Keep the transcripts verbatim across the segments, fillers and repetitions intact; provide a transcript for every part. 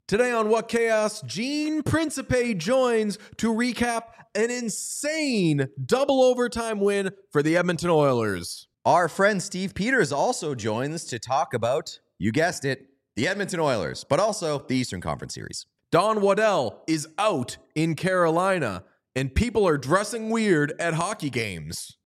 Today on What Chaos, Gene Principe joins to recap an insane double overtime win for the Edmonton Oilers. Our friend Steve Peters also joins to talk about, you guessed it, the Edmonton Oilers, but also the Eastern Conference Series. Don Waddell is out in Carolina, and people are dressing weird at hockey games.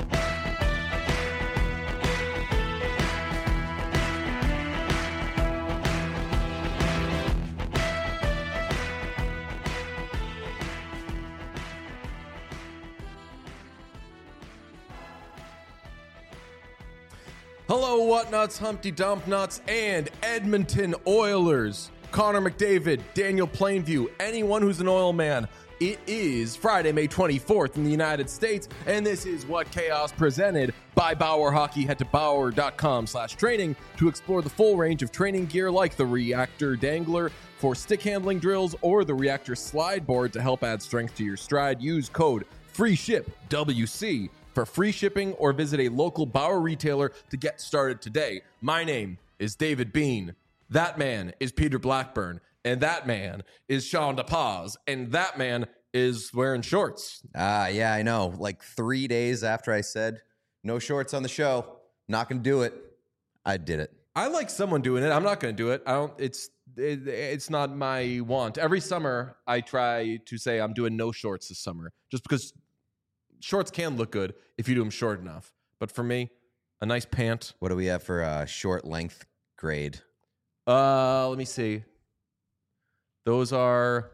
Hello, Whatnuts, Humpty Dump Nuts, and Edmonton Oilers. Connor McDavid, Daniel Plainview, anyone who's an oil man. It is Friday, May twenty-fourth in the United States, and this is What Chaos presented by Bauer Hockey. Head to bauer.com slash training to explore the full range of training gear like the Reactor Dangler for stick handling drills or the Reactor Slide Board to help add strength to your stride. Use code FREESHIP W C for free shipping, or visit a local Bauer retailer to get started today. My name is David Bean. That man is Peter Blackburn. And that man is Sean DePaz. And that man is wearing shorts. Ah, uh, yeah, I know. Like three days after I said, no shorts on the show, not going to do it, I did it. I like someone doing it. I'm not going to do it. I don't, it's, it, it's not my want. Every summer, I try to say I'm doing no shorts this summer, just because shorts can look good if you do them short enough. But for me, a nice pant. What do we have for a short length grade? Uh, let me see. Those are,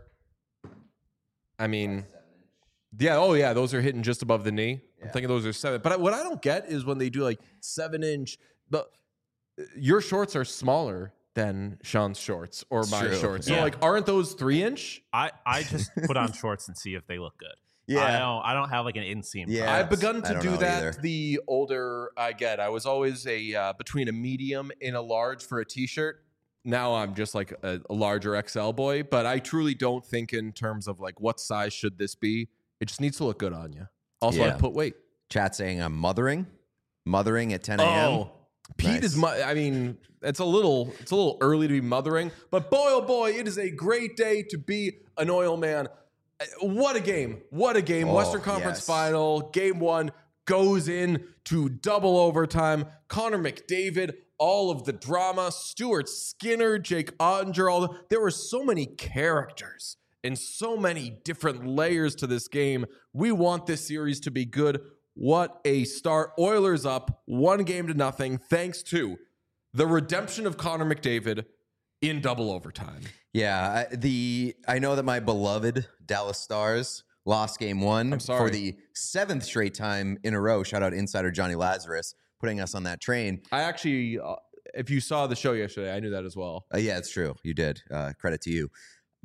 I mean, yeah, oh yeah, those are hitting just above the knee. Yeah. I'm thinking those are seven. But what I don't get is when they do like seven inch, but your shorts are smaller than Sean's shorts or my True. shorts. Yeah. So like, aren't those three inch? I, I just put on shorts and see if they look good. Yeah. I don't I don't have like an inseam. Yeah. I've begun I to don't do know that either. the older I get. I was always a uh, between a medium and a large for a t-shirt. Now I'm just like a, a larger X L boy, but I truly don't think in terms of like what size should this be. It just needs to look good on you. Also, Yeah. I put weight. Chat saying I'm mothering, mothering at ten a.m. Oh, Pete Nice. is. Mo- I mean, it's a little, it's a little early to be mothering, but boy, oh boy, it is a great day to be an oil man. What a game! What a game! Oh, Western Conference yes. Final, Game One goes in to double overtime. Connor McDavid, all of the drama. Stuart Skinner, Jake Ottinger. All the, there were so many characters and so many different layers to this game. We want this series to be good. What a start! Oilers up one game to nothing, thanks to the redemption of Connor McDavid in double overtime. Yeah, I, the I know that my beloved Dallas Stars lost game one I'm sorry. for the seventh straight time in a row. Shout out insider Johnny Lazarus putting us on that train. I actually, uh, if you saw the show yesterday, I knew that as well. Uh, yeah, it's true. You did. Uh, credit to you.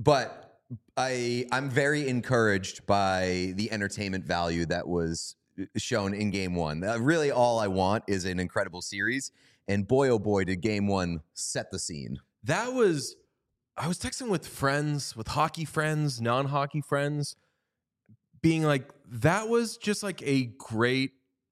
But I I'm very encouraged by the entertainment value that was shown in game one. Uh, really, all I want is an incredible series. And boy, oh boy, did game one set the scene. That was, I was texting with friends, with hockey friends, non-hockey friends, being like, that was just like a great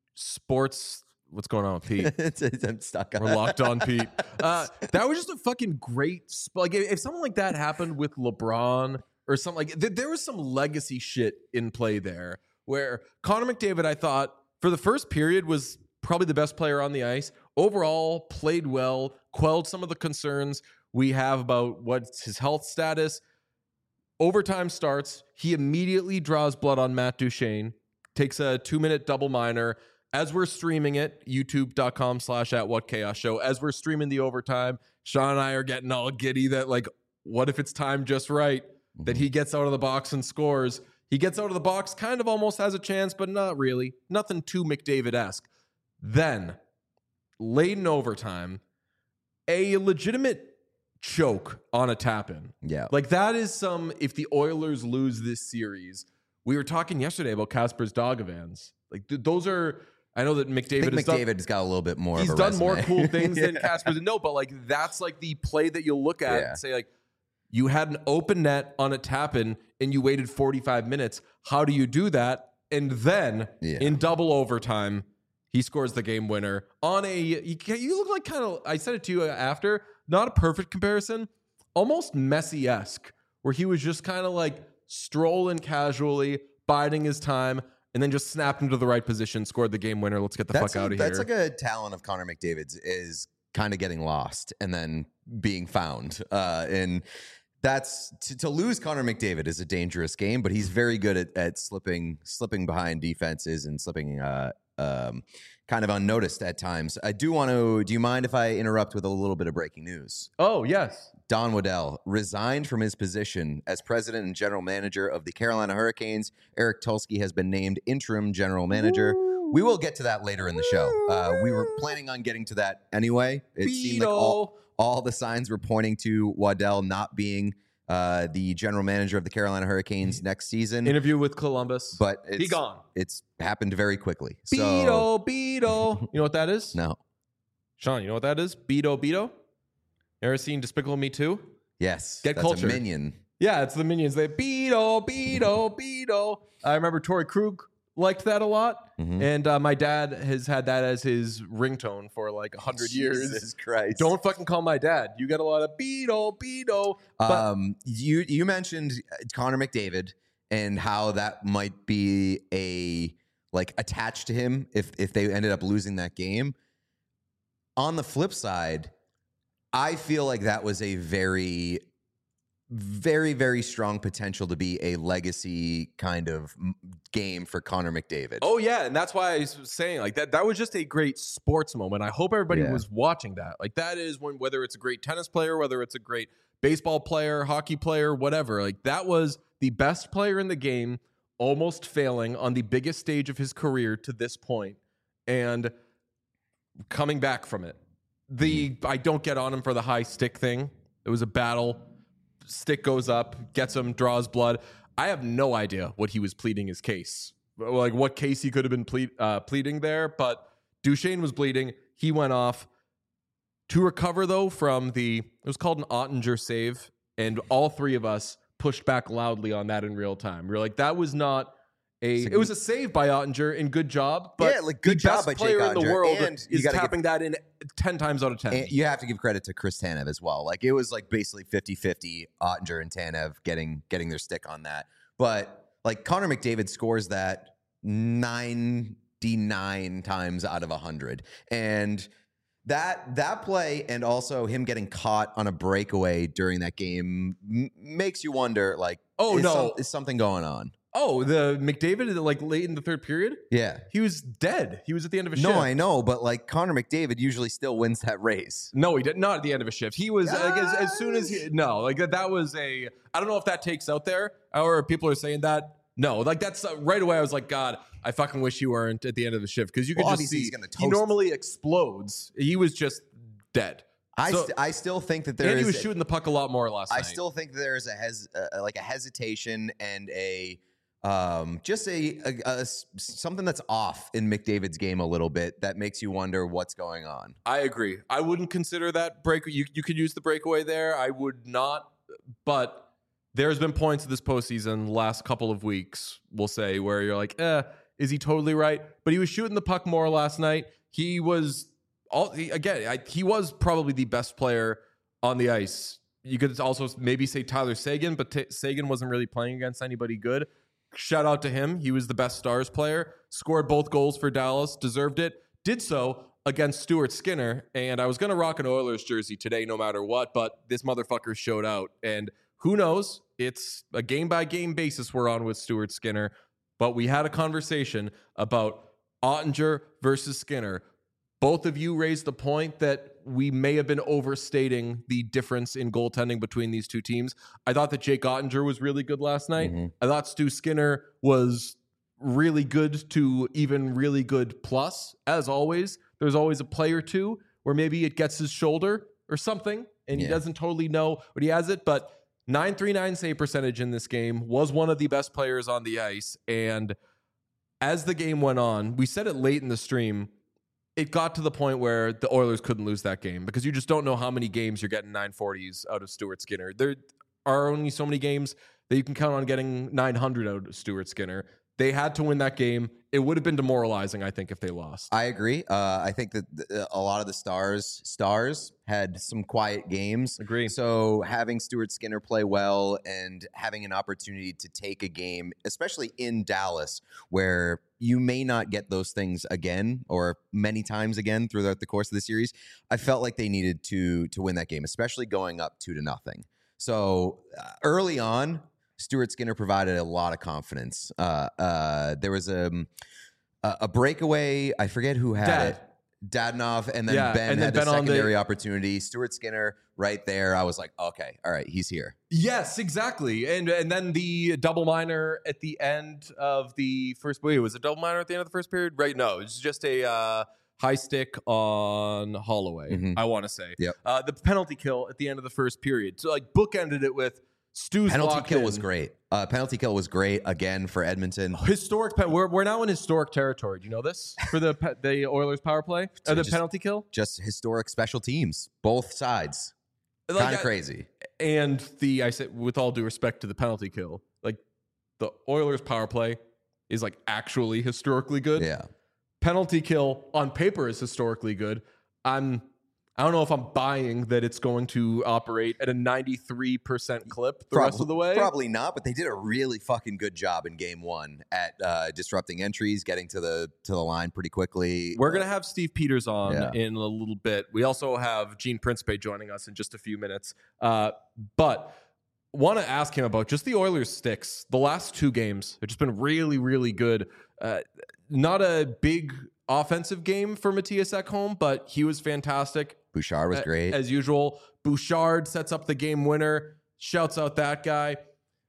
sports. What's going on with Pete? It's- it's- I'm stuck on We're locked on Pete. Uh, that was just a fucking great, sp- like if if something like that happened with LeBron or something like, th- there was some legacy shit in play there where Connor McDavid, I thought for the first period was probably the best player on the ice. Overall, played well, quelled some of the concerns we have about what's his health status. Overtime starts. He immediately draws blood on Matt Duchene, takes a two-minute double minor. As we're streaming it, youtube.com slash at what chaos show, as we're streaming the overtime, Sean and I are getting all giddy that, like, what if it's timed just right, mm-hmm. that he gets out of the box and scores. He gets out of the box, kind of almost has a chance, but not really. Nothing too McDavid-esque. Then, late in overtime, a legitimate choke on a tap-in. Yeah. Like, that is some, if the Oilers lose this series, we were talking yesterday about Kasper's Dogavans. Like, th- those are, I know that McDavid I think has McDavid done, has got a little bit more he's of a done resume. more cool things Yeah. than Kasper's. No, but like, that's like the play that you'll look at Yeah. and say, like, you had an open net on a tap-in and you waited forty-five minutes. How do you do that? And then Yeah. in double overtime, he scores the game winner on a, you, you look like kind of, I said it to you after, not a perfect comparison, almost Messi-esque, where he was just kind of like strolling casually, biding his time, and then just snapped into the right position, scored the game winner. Let's get the That's fuck a- out of That's here. like a talent of Connor McDavid's, is kind of getting lost and then being found. Uh, and that's to, to lose Connor McDavid is a dangerous game, but he's very good at, at slipping slipping behind defenses and slipping uh, um, kind of unnoticed at times. I do want to. Do you mind if I interrupt with a little bit of breaking news? Oh, yes. Don Waddell resigned from his position as president and general manager of the Carolina Hurricanes. Eric Tulsky has been named interim general manager. We will get to that later in the show. Uh, we were planning on getting to that anyway. It seemed like all, all the signs were pointing to Waddell not being uh, the general manager of the Carolina Hurricanes next season. Interview with Columbus. But it's, He gone. It's happened very quickly. So, Beto, Beto. You know what that is? no. Sean, you know what that is? Beto, Beto? Ever seen Despicable Me two? Yes. Get that's cultured. a minion. Yeah, it's the Minions. They Beto, Beto, Beto. I remember Tori Krug liked that a lot. Mhm. And uh, my dad has had that as his ringtone for like a hundred years. Jesus Christ. Don't fucking call my dad. You get a lot of Beto, Beto. But Um, you you mentioned Connor McDavid and how that might be a like attached to him if if they ended up losing that game. On the flip side, I feel like that was a very, very, very strong potential to be a legacy kind of m- game for Connor McDavid. oh yeah, and that's why I was saying like that. That was just a great sports moment. I hope everybody Yeah. was watching that. Like that is when whether it's a great tennis player, whether it's a great baseball player, hockey player, whatever. Like that was the best player in the game, almost failing on the biggest stage of his career to this point, and coming back from it. The I don't get on him for the high stick thing. It was a battle. Stick goes up, gets him, draws blood. I have no idea what he was pleading his case, like what case he could have been ple- uh, pleading there. But Duchesne was bleeding. He went off to recover though from the. It was called an Ottinger save, and all three of us pushed back loudly on that in real time. We were like, that was not. A, So it was a save by Ottinger and good job, but Yeah, like, good the job best by Jake player in the Ottinger, world and you is gotta tapping that in ten times out of ten. And you have to give credit to Chris Tanev as well. Like it was like basically fifty-fifty Ottinger and Tanev getting getting their stick on that. But like Connor McDavid scores that ninety-nine times out of one hundred. And that that play and also him getting caught on a breakaway during that game m- makes you wonder like Oh, is no. some- is something going on? Oh, the McDavid, like late in the third period, Yeah. he was dead. He was at the end of a No, shift. I know, but like Connor McDavid usually still wins that race. No, he did not at the end of a shift. He was like, as, as soon as he no, like that, that was a. I don't know if that takes out there or people are saying that. No, like that's uh, right away. I was like, God, I fucking wish you weren't at the end of the shift because you could Well, just obviously see he's gonna he toast- normally explodes. He was just dead. I So- st- I still think that there and is he was a- shooting the puck a lot more last I night. still think there is a hes uh, like a hesitation and a um just a, a, a s- something that's off in McDavid's game a little bit that makes you wonder what's going on. I agree. I wouldn't consider that break. You you could use the breakaway there. I would not. But there's been points of this postseason, last couple of weeks, we'll say, where you're like, eh, is he totally right? But he was shooting the puck more last night. He was all he, again. I, he was probably the best player on the ice. You could also maybe say Tyler Sagan, but T- Sagan wasn't really playing against anybody good. Shout out to him. He was the best Stars player. Scored both goals for Dallas. Deserved it. Did so against Stuart Skinner. And I was going to rock an Oilers jersey today no matter what, but this motherfucker showed out. And who knows? It's a game-by-game basis we're on with Stuart Skinner. But we had a conversation about Ottinger versus Skinner. Both of you raised the point that we may have been overstating the difference in goaltending between these two teams. I thought that Jake Ottinger was really good last night. Mhm. I thought Stu Skinner was really good to even really good plus. As always, there's always a play or two where maybe it gets his shoulder or something, and he Yeah. doesn't totally know what he has it. But nine three nine save percentage in this game, was one of the best players on the ice. And as the game went on, we said it late in the stream, it got to the point where the Oilers couldn't lose that game because you just don't know how many games you're getting nine forties out of Stuart Skinner. There are only so many games that you can count on getting nine hundred out of Stuart Skinner. They had to win that game. It would have been demoralizing, I think, if they lost. I agree. Uh, I think that th- a lot of the stars stars had some quiet games. Agree. So having Stuart Skinner play well and having an opportunity to take a game, especially in Dallas, where you may not get those things again or many times again throughout the course of the series, I felt like they needed to to win that game, especially going up two to nothing. So uh, early on, Stuart Skinner provided a lot of confidence. Uh, uh, there was a, a a breakaway. I forget who had Dad. it. Dadonov, and then Yeah, Ben and then had Ben the on the- secondary opportunity. Stuart Skinner right there. I was like, okay, all right, he's here. Yes, exactly. And and then the double minor at the end of the first wait, was it double minor at the end of the first period? Right. No, it's just a uh, high stick on Holloway, Mhm. I want to say. Yep. Uh, the penalty kill at the end of the first period. So like bookended it with Stu's Penalty locked kill in. was great. Uh, penalty kill was great again for Edmonton. Historic pen- we're, we're now in historic territory. Do you know this? For the pe- the Oilers power play? Or the Just- penalty kill? Just historic special teams, both sides. Like, Kind of I- crazy. And the I said with all due respect to the penalty kill, like the Oilers power play is like actually historically good. Yeah. Penalty kill on paper is historically good. I'm I don't know if I'm buying that it's going to operate at a ninety-three percent clip the rest of the way. Probably not, but they did a really fucking good job in game one at uh, disrupting entries, getting to the to the line pretty quickly. We're gonna have Steve Peters on Yeah. in a little bit. We also have Gene Principe joining us in just a few minutes. Uh, but want to ask him about just the Oilers sticks. The last two games have just been really, really good. Uh, not a big offensive game for Matthias Ekholm, but he was fantastic. Bouchard was A- great. As usual, Bouchard sets up the game winner, shouts out that guy.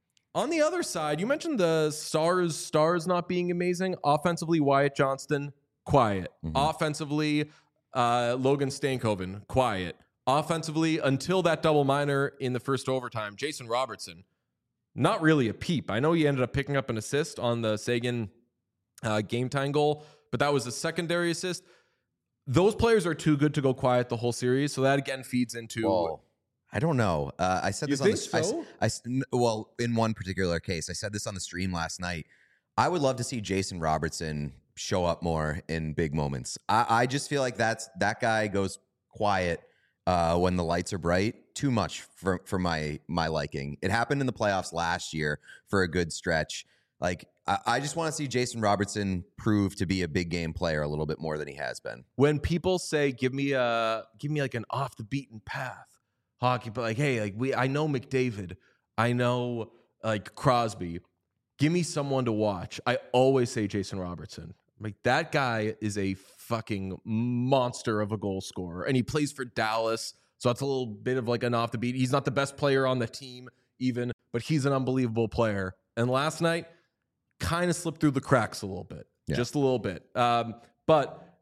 On the other side, you mentioned the stars, stars not being amazing. Offensively, Wyatt Johnston, quiet. Mhm. Offensively, uh, Logan Stankoven, quiet. Offensively, until that double minor in the first overtime, Jason Robertson, not really a peep. I know he ended up picking up an assist on the Sagan uh, game time goal, but that was a secondary assist. Those players are too good to go quiet the whole series, so that again feeds into. Well, I don't know. Uh, I said You this on the think I s- so? I s- n- well, in one particular case, I said this on the stream last night. I would love to see Jason Robertson show up more in big moments. I, I just feel like that's that guy goes quiet uh, when the lights are bright. Too much for for my my liking. It happened in the playoffs last year for a good stretch. Like I, I just want to see Jason Robertson prove to be a big game player a little bit more than he has been. When people say, "Give me a, give me like an off the beaten path hockey," but like, hey, like we, I know McDavid, I know like Crosby. Give me someone to watch. I always say Jason Robertson. Like that guy is a fucking monster of a goal scorer, and he plays for Dallas, so that's a little bit of like an off the beat. He's not the best player on the team, even, but he's an unbelievable player. And last night, kind of slipped through the cracks a little bit, Yeah. just a little bit. Um, but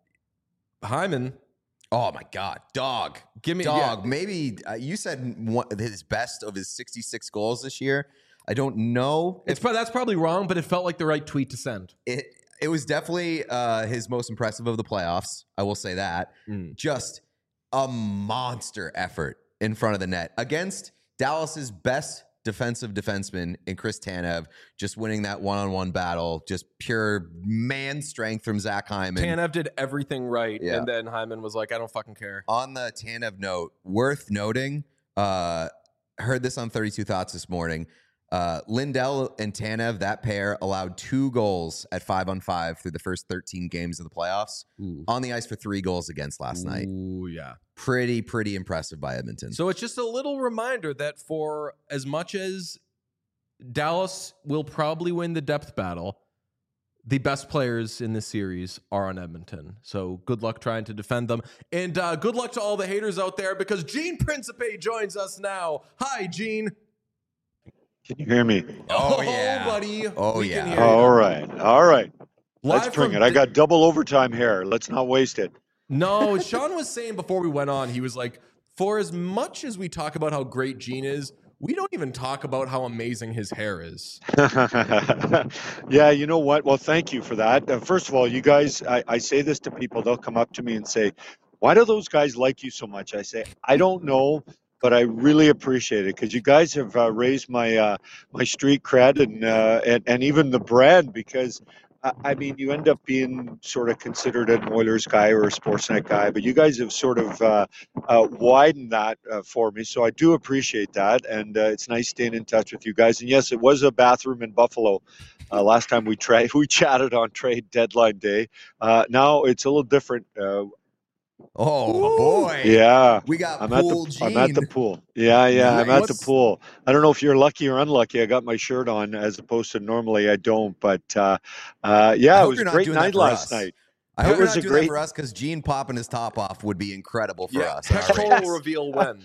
Hyman, Oh my God, dog. give me Dog, yeah. maybe uh, you said one, his best of his sixty-six goals this year. I don't know. It's probably that's probably wrong, but it felt like the right tweet to send. It it was definitely uh, his most impressive of the playoffs. I will say that. Mm. Just a monster effort in front of the net against Dallas's best defensive defenseman in Chris Tanev, just winning that one-on-one battle. Just pure man strength from Zach Hyman. Tanev did everything right, Yeah. and then Hyman was like, "I don't fucking care." On the Tanev note, worth noting, uh, heard this on thirty-two Thoughts this morning. Uh, Lindell and Tanev, that pair, allowed two goals at five on five through the first thirteen games of the playoffs. Ooh. On the ice for three goals against last night. Ooh, yeah. Pretty, pretty impressive by Edmonton. So it's just a little reminder that for as much as Dallas will probably win the depth battle, the best players in this series are on Edmonton. So good luck trying to defend them. And uh, good luck to all the haters out there because Gene Principe joins us now. Hi, Gene. Can you hear me? Oh, yeah. buddy. Oh, We can yeah. hear you. All right. All right. Live Let's bring from it. I the- got double overtime here. Let's not waste it. No, Sean was saying before we went on, he was like, for as much as we talk about how great Gene is, we don't even talk about how amazing his hair is. Yeah, you know what? Well, thank you for that. Uh, first of all, you guys, I, I say this to people. They'll come up to me and say, why do those guys like you so much? I say, I don't know, but I really appreciate it because you guys have uh, raised my uh, my street cred and, uh, and and even the brand because. I I mean, you end up being sort of considered an Oilers guy or a Sportsnet guy, but you guys have sort of uh, uh, widened that uh, for me. So I do appreciate that, and uh, it's nice staying in touch with you guys. And yes, it was a bathroom in Buffalo uh, last time we tried. We chatted on trade deadline day. Uh, now it's a little different. Uh, Oh boy. yeah, We got I'm at pool the I'm at the Gene. pool. Yeah, yeah, I'm at the What's- pool. I don't know if you're lucky or unlucky. I got my shirt on as opposed to normally I don't. But uh, uh, yeah, I it hope was you're a not great doing that night for last us. night. I It hope you're was not a doing great- that for us because Gene popping his top off would be incredible for yeah, us. in our pectoral ratings. reveal when.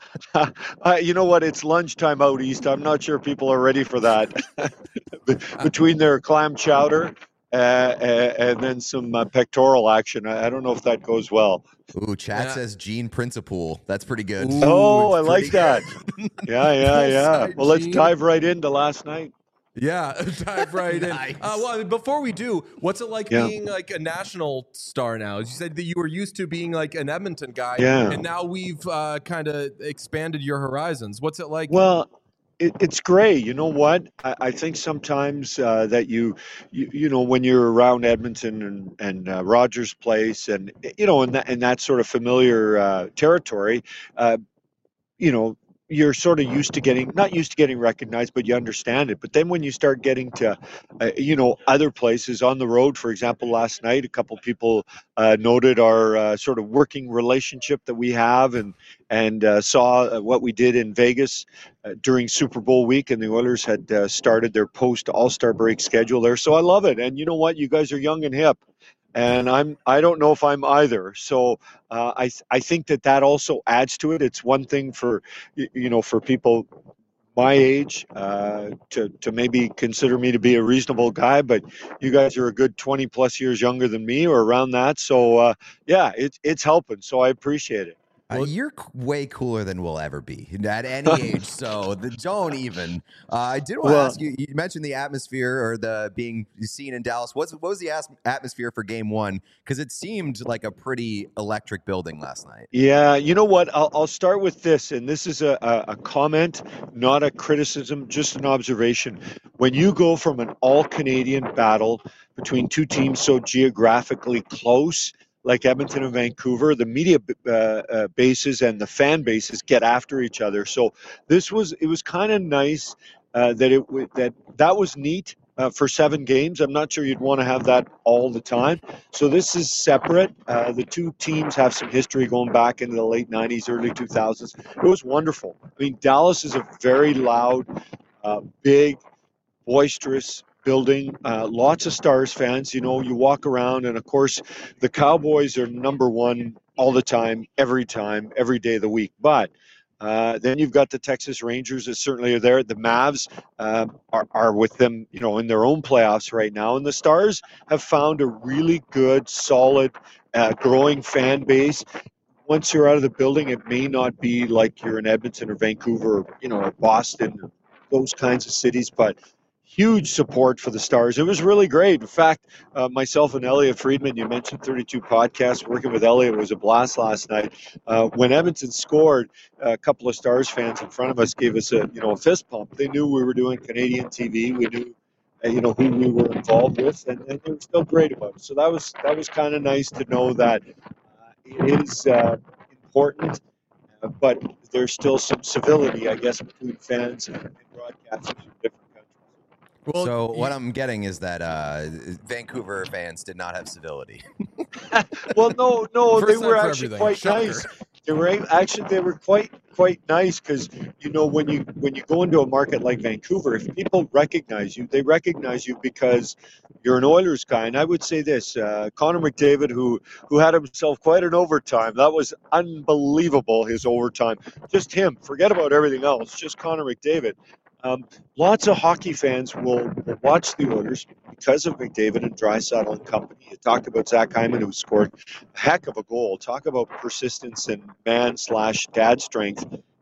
uh, you know what? It's lunchtime out east. I'm not sure people are ready for that. Be- Between their clam chowder uh, uh, and then some uh, pectoral action, I, I don't know if that goes well. Ooh, chat Yeah. says Gene Principal. That's pretty good. Ooh, Oh, it's I like pretty that. good. Yeah, yeah, yeah. Poolside Well, let's Gene. dive right into last night. Yeah, dive right Nice. in. Uh, well, I mean, before we do, what's it like Yeah. being like a national star now? You said that you were used to being like an Edmonton guy, Yeah. and now we've uh, kind of expanded your horizons. What's it like? Well, it, it's great. You know what? I, I think sometimes uh, that you, you, you know, when you're around Edmonton and and uh, Rogers Place, and you know, in that in that sort of familiar uh, territory, uh, you know, you're sort of used to getting not used to getting recognized, but you understand it. But then when you start getting to, uh, you know, other places on the road, for example, last night, a couple people uh, noted our uh, sort of working relationship that we have, and and uh, saw uh, what we did in Vegas uh, during Super Bowl week, and the Oilers had uh, started their post All Star break schedule there. So I love it. And you know what? You guys are young and hip, and I'm I don't know if I'm either. So uh, I I think that that also adds to it. It's one thing for y- you know for people my age uh, to to maybe consider me to be a reasonable guy, but you guys are a good twenty plus years younger than me or around that. So uh, yeah, it's it's helping. So I appreciate it. Uh, you're c- way cooler than we'll ever be at any age. So the, don't even. Uh, I did want to Well- ask you. You mentioned the atmosphere or the being seen in Dallas. What's what was the as- atmosphere for Game One? Because it seemed like a pretty electric building last night. Yeah, you know what? I'll, I'll start with this, and this is a, a, a comment, not a criticism, just an observation. When you go from an all Canadian battle between two teams so geographically close, like Edmonton and Vancouver, the media uh, uh, bases and the fan bases get after each other. So this was it was kind of nice uh, that it w- that that was neat uh, for seven games. I'm not sure you'd want to have that all the time. So this is separate. Uh, the two teams have some history going back into the late nineties, early two thousands. It was wonderful. I mean, Dallas is a very loud, uh, big, boisterous building. Uh, lots of Stars fans. You know, you walk around, and of course, the Cowboys are number one all the time, every time, every day of the week. But uh, then you've got the Texas Rangers that certainly are there. The Mavs uh, are, are with them, you know, in their own playoffs right now. And the Stars have found a really good, solid, uh, growing fan base. Once you're out of the building, it may not be like you're in Edmonton or Vancouver, or, you know, or Boston, those kinds of cities, but huge support for the Stars. It was really great. In fact, uh, myself and Elliot Friedman, you mentioned thirty-two podcasts, working with Elliot was a blast last night. Uh, when Edmonton scored, a couple of Stars fans in front of us gave us a, you know, a fist pump. They knew we were doing Canadian T V. We knew, uh, you know, who we were involved with, and, and they were still great about it. So that was that was kind of nice to know that uh, it is uh, important, uh, but there's still some civility, I guess, between fans and, and broadcasters in different countries. Well, so what you- I'm getting is that uh, Vancouver fans did not have civility. Well, no, no, they First were time for actually everything. quite Shocker. nice. They were a- actually they were quite quite nice because you know when you when you go into a market like Vancouver, if people recognize you, they recognize you because you're an Oilers guy. And I would say this: uh, Connor McDavid, who who had himself quite an overtime, that was unbelievable. His overtime, just him. Forget about everything else. Just Connor McDavid. Um, lots of hockey fans will, will watch the Oilers because of McDavid and Draisaitl and company. You talked about Zach Hyman, who scored a heck of a goal. Talk about persistence and man slash dad strength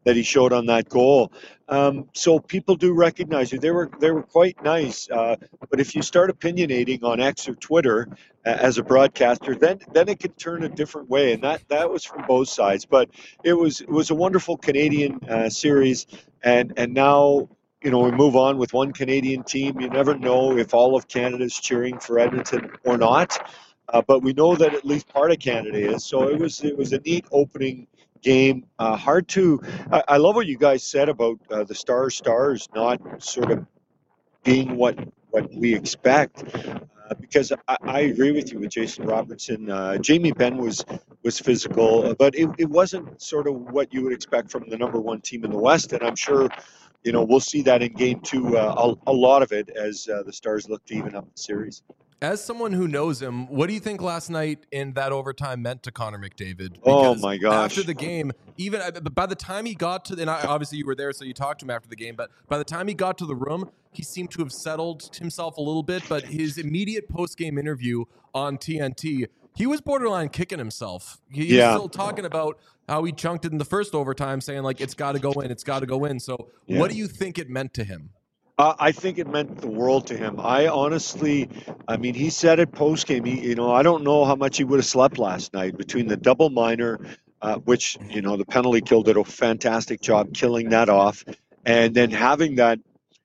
that he showed on that goal. Um, so people do recognize you. They were they were quite nice. Uh, but if you start opinionating on X or Twitter uh, as a broadcaster, then then it could turn a different way, and that that was from both sides. But it was it was a wonderful Canadian uh, series, and and now. You know, we move on with one Canadian team. You never know if all of Canada is cheering for Edmonton or not, uh, but we know that at least part of Canada is. So it was it was a neat opening game. Uh, hard to. I, I love what you guys said about uh, the Stars Stars not sort of being what what we expect. Uh, because I, I agree with you with Jason Robertson. Uh, Jamie Benn was was physical, but it, it wasn't sort of what you would expect from the number one team in the West. And I'm sure, you know, we'll see that in game two, uh, a, a lot of it as uh, the Stars look to even up the series. As someone who knows him, what do you think last night in that overtime meant to Connor McDavid? Because oh my gosh! After the game, even by the time he got to, and obviously you were there, so you talked to him after the game. But by the time he got to the room, he seemed to have settled himself a little bit. But his immediate post-game interview on T N T, he was borderline kicking himself. He yeah. was still talking about how he chunked it in the first overtime, saying like it's got to go in, it's got to go in. So, yeah. what do you think it meant to him? Uh, I think it meant the world to him. I honestly, I mean, he said it post game. He, you know, I don't know how much he would have slept last night between the double minor, uh, which you know the penalty kill did a fantastic job killing that off, and then having that.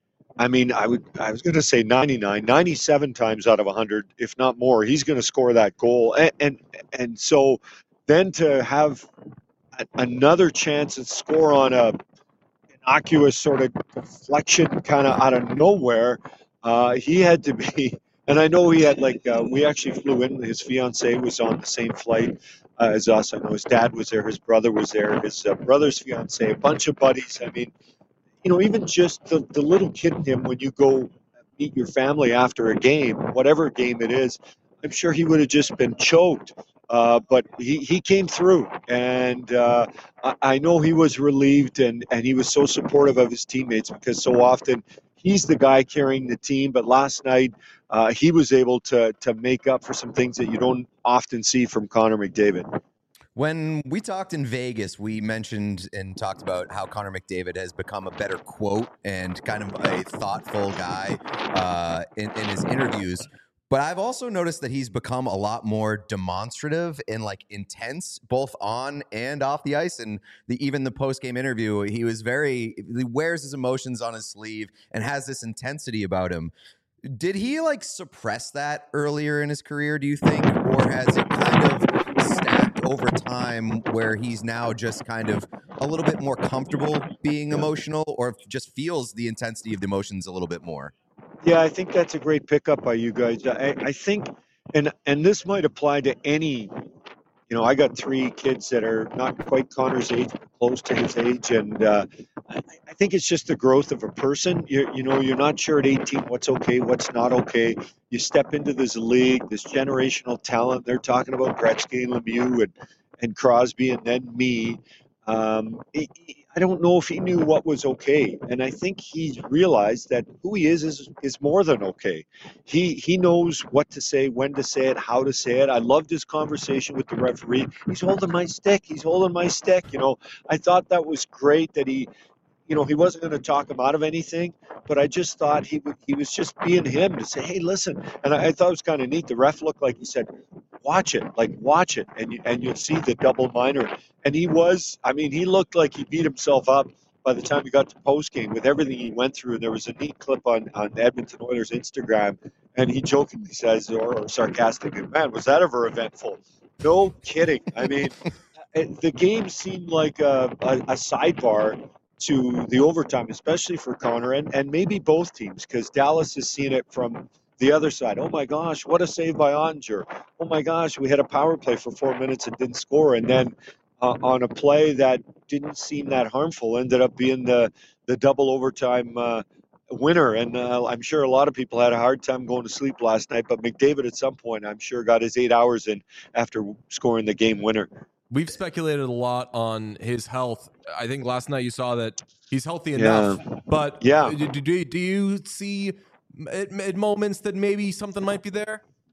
I mean, I would, I was going to say ninety-nine, ninety-seven times out of one hundred, if not more, he's going to score that goal, and and, and so then to have a, another chance to score on a innocuous sort of deflection kind of out of nowhere. Uh, he had to be, and I know he had like, uh, we actually flew in, his fiance was on the same flight uh, as us. I know his dad was there, his brother was there, his uh, brother's fiance, a bunch of buddies. I mean, you know, even just the, the little kid in him when you go meet your family after a game, whatever game it is, I'm sure he would have just been choked. Uh, but he, he came through, and uh, I, I know he was relieved, and, and he was so supportive of his teammates because so often he's the guy carrying the team. But last night, uh, he was able to to make up for some things that you don't often see from Connor McDavid. When we talked in Vegas, we mentioned and talked about how Connor McDavid has become a better quote and kind of a thoughtful guy uh, in, in his interviews. But I've also noticed that he's become a lot more demonstrative and like intense, both on and off the ice. And the, even the post-game interview, he was very, he wears his emotions on his sleeve and has this intensity about him. Did he like suppress that earlier in his career, do you think? Or has it kind of stacked over time where he's now just kind of a little bit more comfortable being emotional, or just feels the intensity of the emotions a little bit more? Yeah, I think that's a great pickup by you guys. I, I think, and and this might apply to any, you know, I got three kids that are not quite Connor's age, but close to his age, and uh, I, I think it's just the growth of a person. You you know, you're not sure at eighteen what's okay, what's not okay. You step into this league, this generational talent. They're talking about Gretzky and Lemieux and, and Crosby, and then me. Um, he, he, I don't know if he knew what was okay, and I think he realized that who he is is is more than okay. He he knows what to say, when to say it, how to say it. I loved his conversation with the referee. He's holding my stick. He's holding my stick. You know, I thought that was great that he, you know, he wasn't going to talk him out of anything, but I just thought he would, he was just being him to say, hey, listen. And I, I thought it was kind of neat. The ref looked like he said, watch it, like watch it, and you, and you'll see the double minor. And he was, I mean, he looked like he beat himself up by the time he got to postgame with everything he went through. And there was a neat clip on, on Edmonton Oilers Instagram, and he jokingly says, or, or sarcastically, man, was that ever eventful? No kidding. I mean, the game seemed like a, a, a sidebar to the overtime, especially for Connor, and, and maybe both teams, because Dallas has seen it from the other side. Oh my gosh, what a save by Onger. Oh my gosh, we had a power play for four minutes and didn't score. And then uh, on a play that didn't seem that harmful, ended up being the, the double overtime uh, winner. And uh, I'm sure a lot of people had a hard time going to sleep last night, but McDavid at some point, I'm sure, got his eight hours in after scoring the game winner. We've speculated a lot on his health. I think last night you saw that he's healthy enough, yeah. but yeah. do, do, do you see at, at moments that maybe something might be there?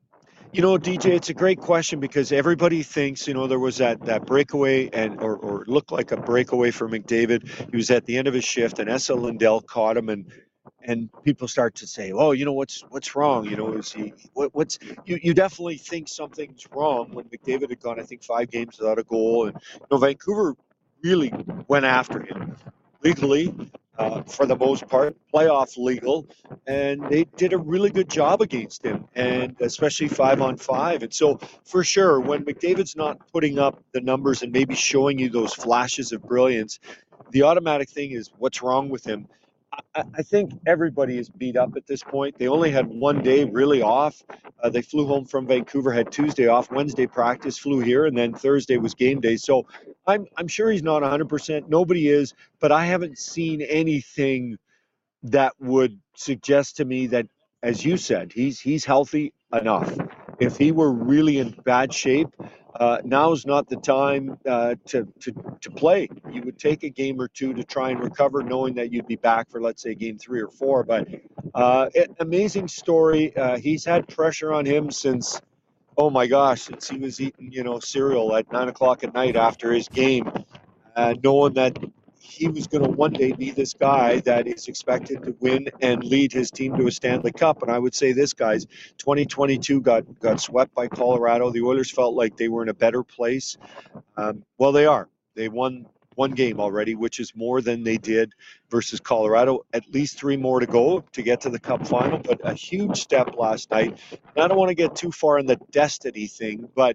You know, D J, it's a great question because everybody thinks, you know, there was that, that breakaway and or, or looked like a breakaway for McDavid. He was at the end of his shift and Esa Lindell caught him and and people start to say, oh, you know, what's what's wrong? You know, is he what, what's you, you definitely think something's wrong when McDavid had gone, I think, five games without a goal. And you know, Vancouver really went after him legally, uh, for the most part, playoff legal, and they did a really good job against him, and especially five on five. And so, for sure, when McDavid's not putting up the numbers and maybe showing you those flashes of brilliance, the automatic thing is, what's wrong with him? I, I think everybody is beat up at this point. They only had one day really off. Uh, they flew home from Vancouver, had Tuesday off, Wednesday practice, flew here, and then Thursday was game day. So I'm I'm sure he's not one hundred percent. Nobody is, but I haven't seen anything that would suggest to me that, as you said, he's he's healthy enough. If he were really in bad shape, uh, now's not the time uh, to, to to play. You would take a game or two to try and recover, knowing that you'd be back for, let's say, game three or four. But uh, it, amazing story. Uh, he's had pressure on him since, oh my gosh, since he was eating, you know, cereal at nine o'clock at night after his game, uh, knowing that he was going to one day be this guy that is expected to win and lead his team to a Stanley Cup. And I would say this guy's twenty twenty-two got, got swept by Colorado. The Oilers felt like they were in a better place. Um, well, they are. They won one game already, which is more than they did versus Colorado. At least three more to go to get to the Cup final, but a huge step last night. And I don't want to get too far in the destiny thing, but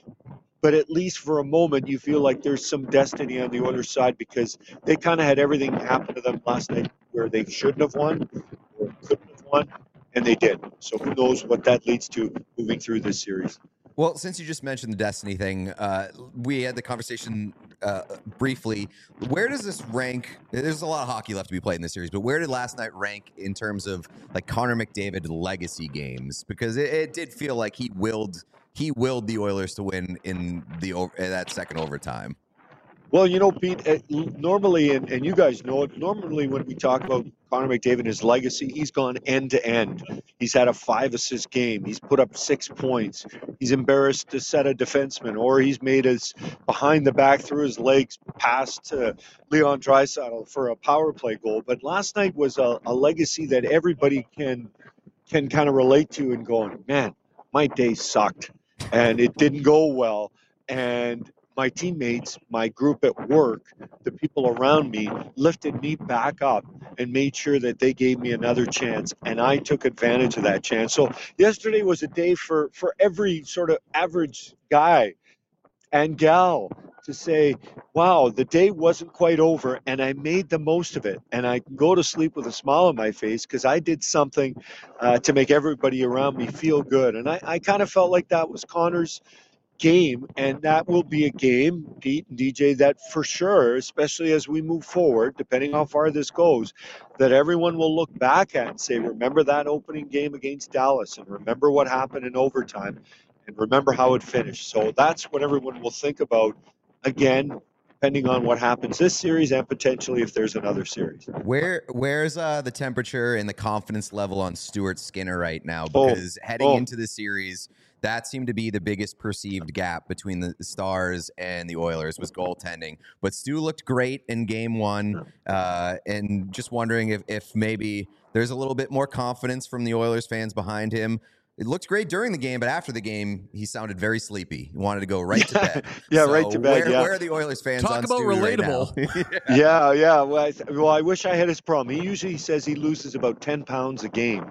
but at least for a moment, you feel like there's some destiny on the Oilers side because they kind of had everything happen to them last night where they shouldn't have won or couldn't have won, and they did. So who knows what that leads to moving through this series. Well, since you just mentioned the Destiny thing, uh, we had the conversation uh, briefly. Where does this rank? There's a lot of hockey left to be played in this series, but where did last night rank in terms of like Connor McDavid legacy games? Because it, it did feel like he willed he willed the Oilers to win in the in that second overtime. Well, you know, Pete, uh, normally, and, and you guys know it, normally when we talk about Connor McDavid and his legacy, he's gone end to end. He's had a five assist game. He's put up six points. He's embarrassed to set a defenseman, or he's made his behind the back through his legs pass to Leon Draisaitl for a power play goal. But last night was a, a legacy that everybody can can kind of relate to and going, man, my day sucked and it didn't go well. And my teammates, my group at work, the people around me lifted me back up and made sure that they gave me another chance, and I took advantage of that chance. So yesterday was a day for, for every sort of average guy and gal to say, wow, the day wasn't quite over, and I made the most of it. And I can go to sleep with a smile on my face because I did something uh, to make everybody around me feel good. And I, I kind of felt like that was Connor's game, and that will be a game, Pete and D J, that for sure, especially as we move forward, depending how far this goes, that everyone will look back at and say, remember that opening game against Dallas, and remember what happened in overtime, and remember how it finished. So that's what everyone will think about, again, depending on what happens this series and potentially if there's another series. Where Where's uh, the temperature and the confidence level on Stuart Skinner right now? Oh, Because heading oh. into the series, that seemed to be the biggest perceived gap between the Stars and the Oilers was goaltending. But Stu looked great in game one, uh, and just wondering if, if maybe there's a little bit more confidence from the Oilers fans behind him. It looked great during the game, but after the game, he sounded very sleepy. He wanted to go right to bed. yeah, so right to bed. Where, yeah. where are the Oilers fans Talk on about Stu relatable. Right now? yeah, yeah. Well I, th- well, I wish I had his problem. He usually says he loses about ten pounds a game.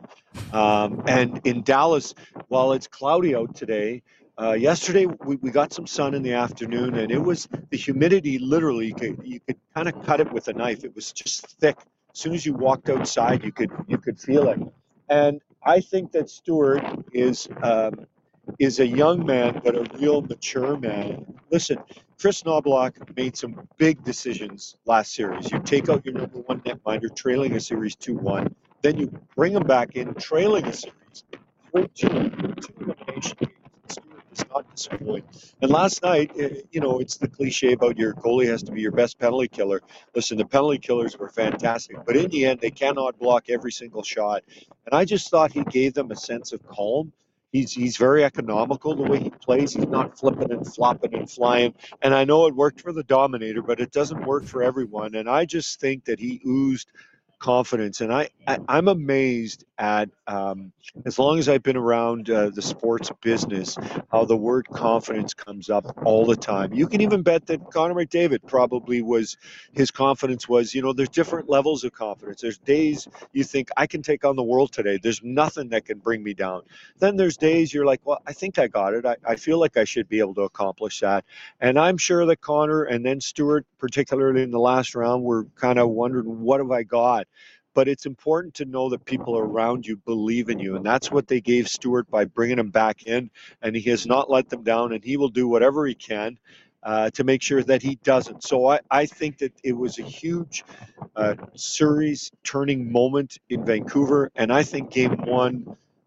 Um, and in Dallas, while it's cloudy out today, uh, yesterday we, we got some sun in the afternoon, and it was the humidity. Literally, you could you could kind of cut it with a knife. It was just thick. As soon as you walked outside, you could you could feel it. And I think that Stuart is um, is a young man, but a real mature man. Listen, Chris Knobloch made some big decisions last series. You take out your number one netminder, trailing a series two one. Then you bring him back in, trailing a series three two, two elimination games. Stuart does not disappoint. And last night, you know, it's the cliche about your goalie has to be your best penalty killer. Listen, the penalty killers were fantastic, but in the end, they cannot block every single shot. And I just thought he gave them a sense of calm. He's he's very economical the way he plays. He's not flipping and flopping and flying. And I know it worked for the Dominator, but it doesn't work for everyone. And I just think that he oozed confidence. And I, I I'm amazed at um, as long as I've been around uh, the sports business, how the word confidence comes up all the time. You can even bet that Connor McDavid probably was, his confidence was, you know, there's different levels of confidence. There's days you think I can take on the world today. There's nothing that can bring me down. Then there's days you're like, well, I think I got it. I, I feel like I should be able to accomplish that. And I'm sure that Connor and then Stuart, particularly in the last round, were kind of wondering, what have I got? But it's important to know that people around you believe in you. And that's what they gave Stuart by bringing him back in. And he has not let them down, and he will do whatever he can uh, to make sure that he doesn't. So I, I think that it was a huge uh, series turning moment in Vancouver. And I think game one,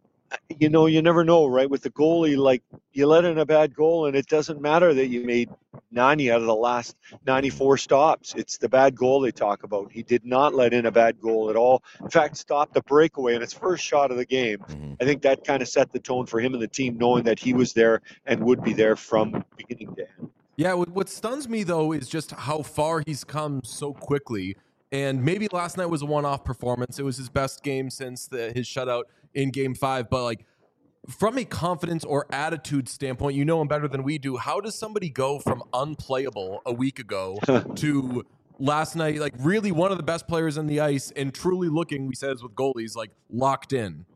you know, you never know, right? With the goalie, like, you let in a bad goal, and it doesn't matter that you made ninety out of the last ninety-four stops. It's the bad goal they talk about. He did not let in a bad goal at all. In fact, stopped the breakaway in his first shot of the game. Mm-hmm. I think that kind of set the tone for him and the team, knowing that he was there and would be there from beginning to end. Yeah, what what stuns me, though, is just how far he's come so quickly. And maybe last night was a one-off performance. It was his best game since the, his shutout in game five. But, like, from a confidence or attitude standpoint, you know him better than we do. How does somebody go from unplayable a week ago to last night, like, really one of the best players on the ice and truly looking, we said this with goalies, like, locked in?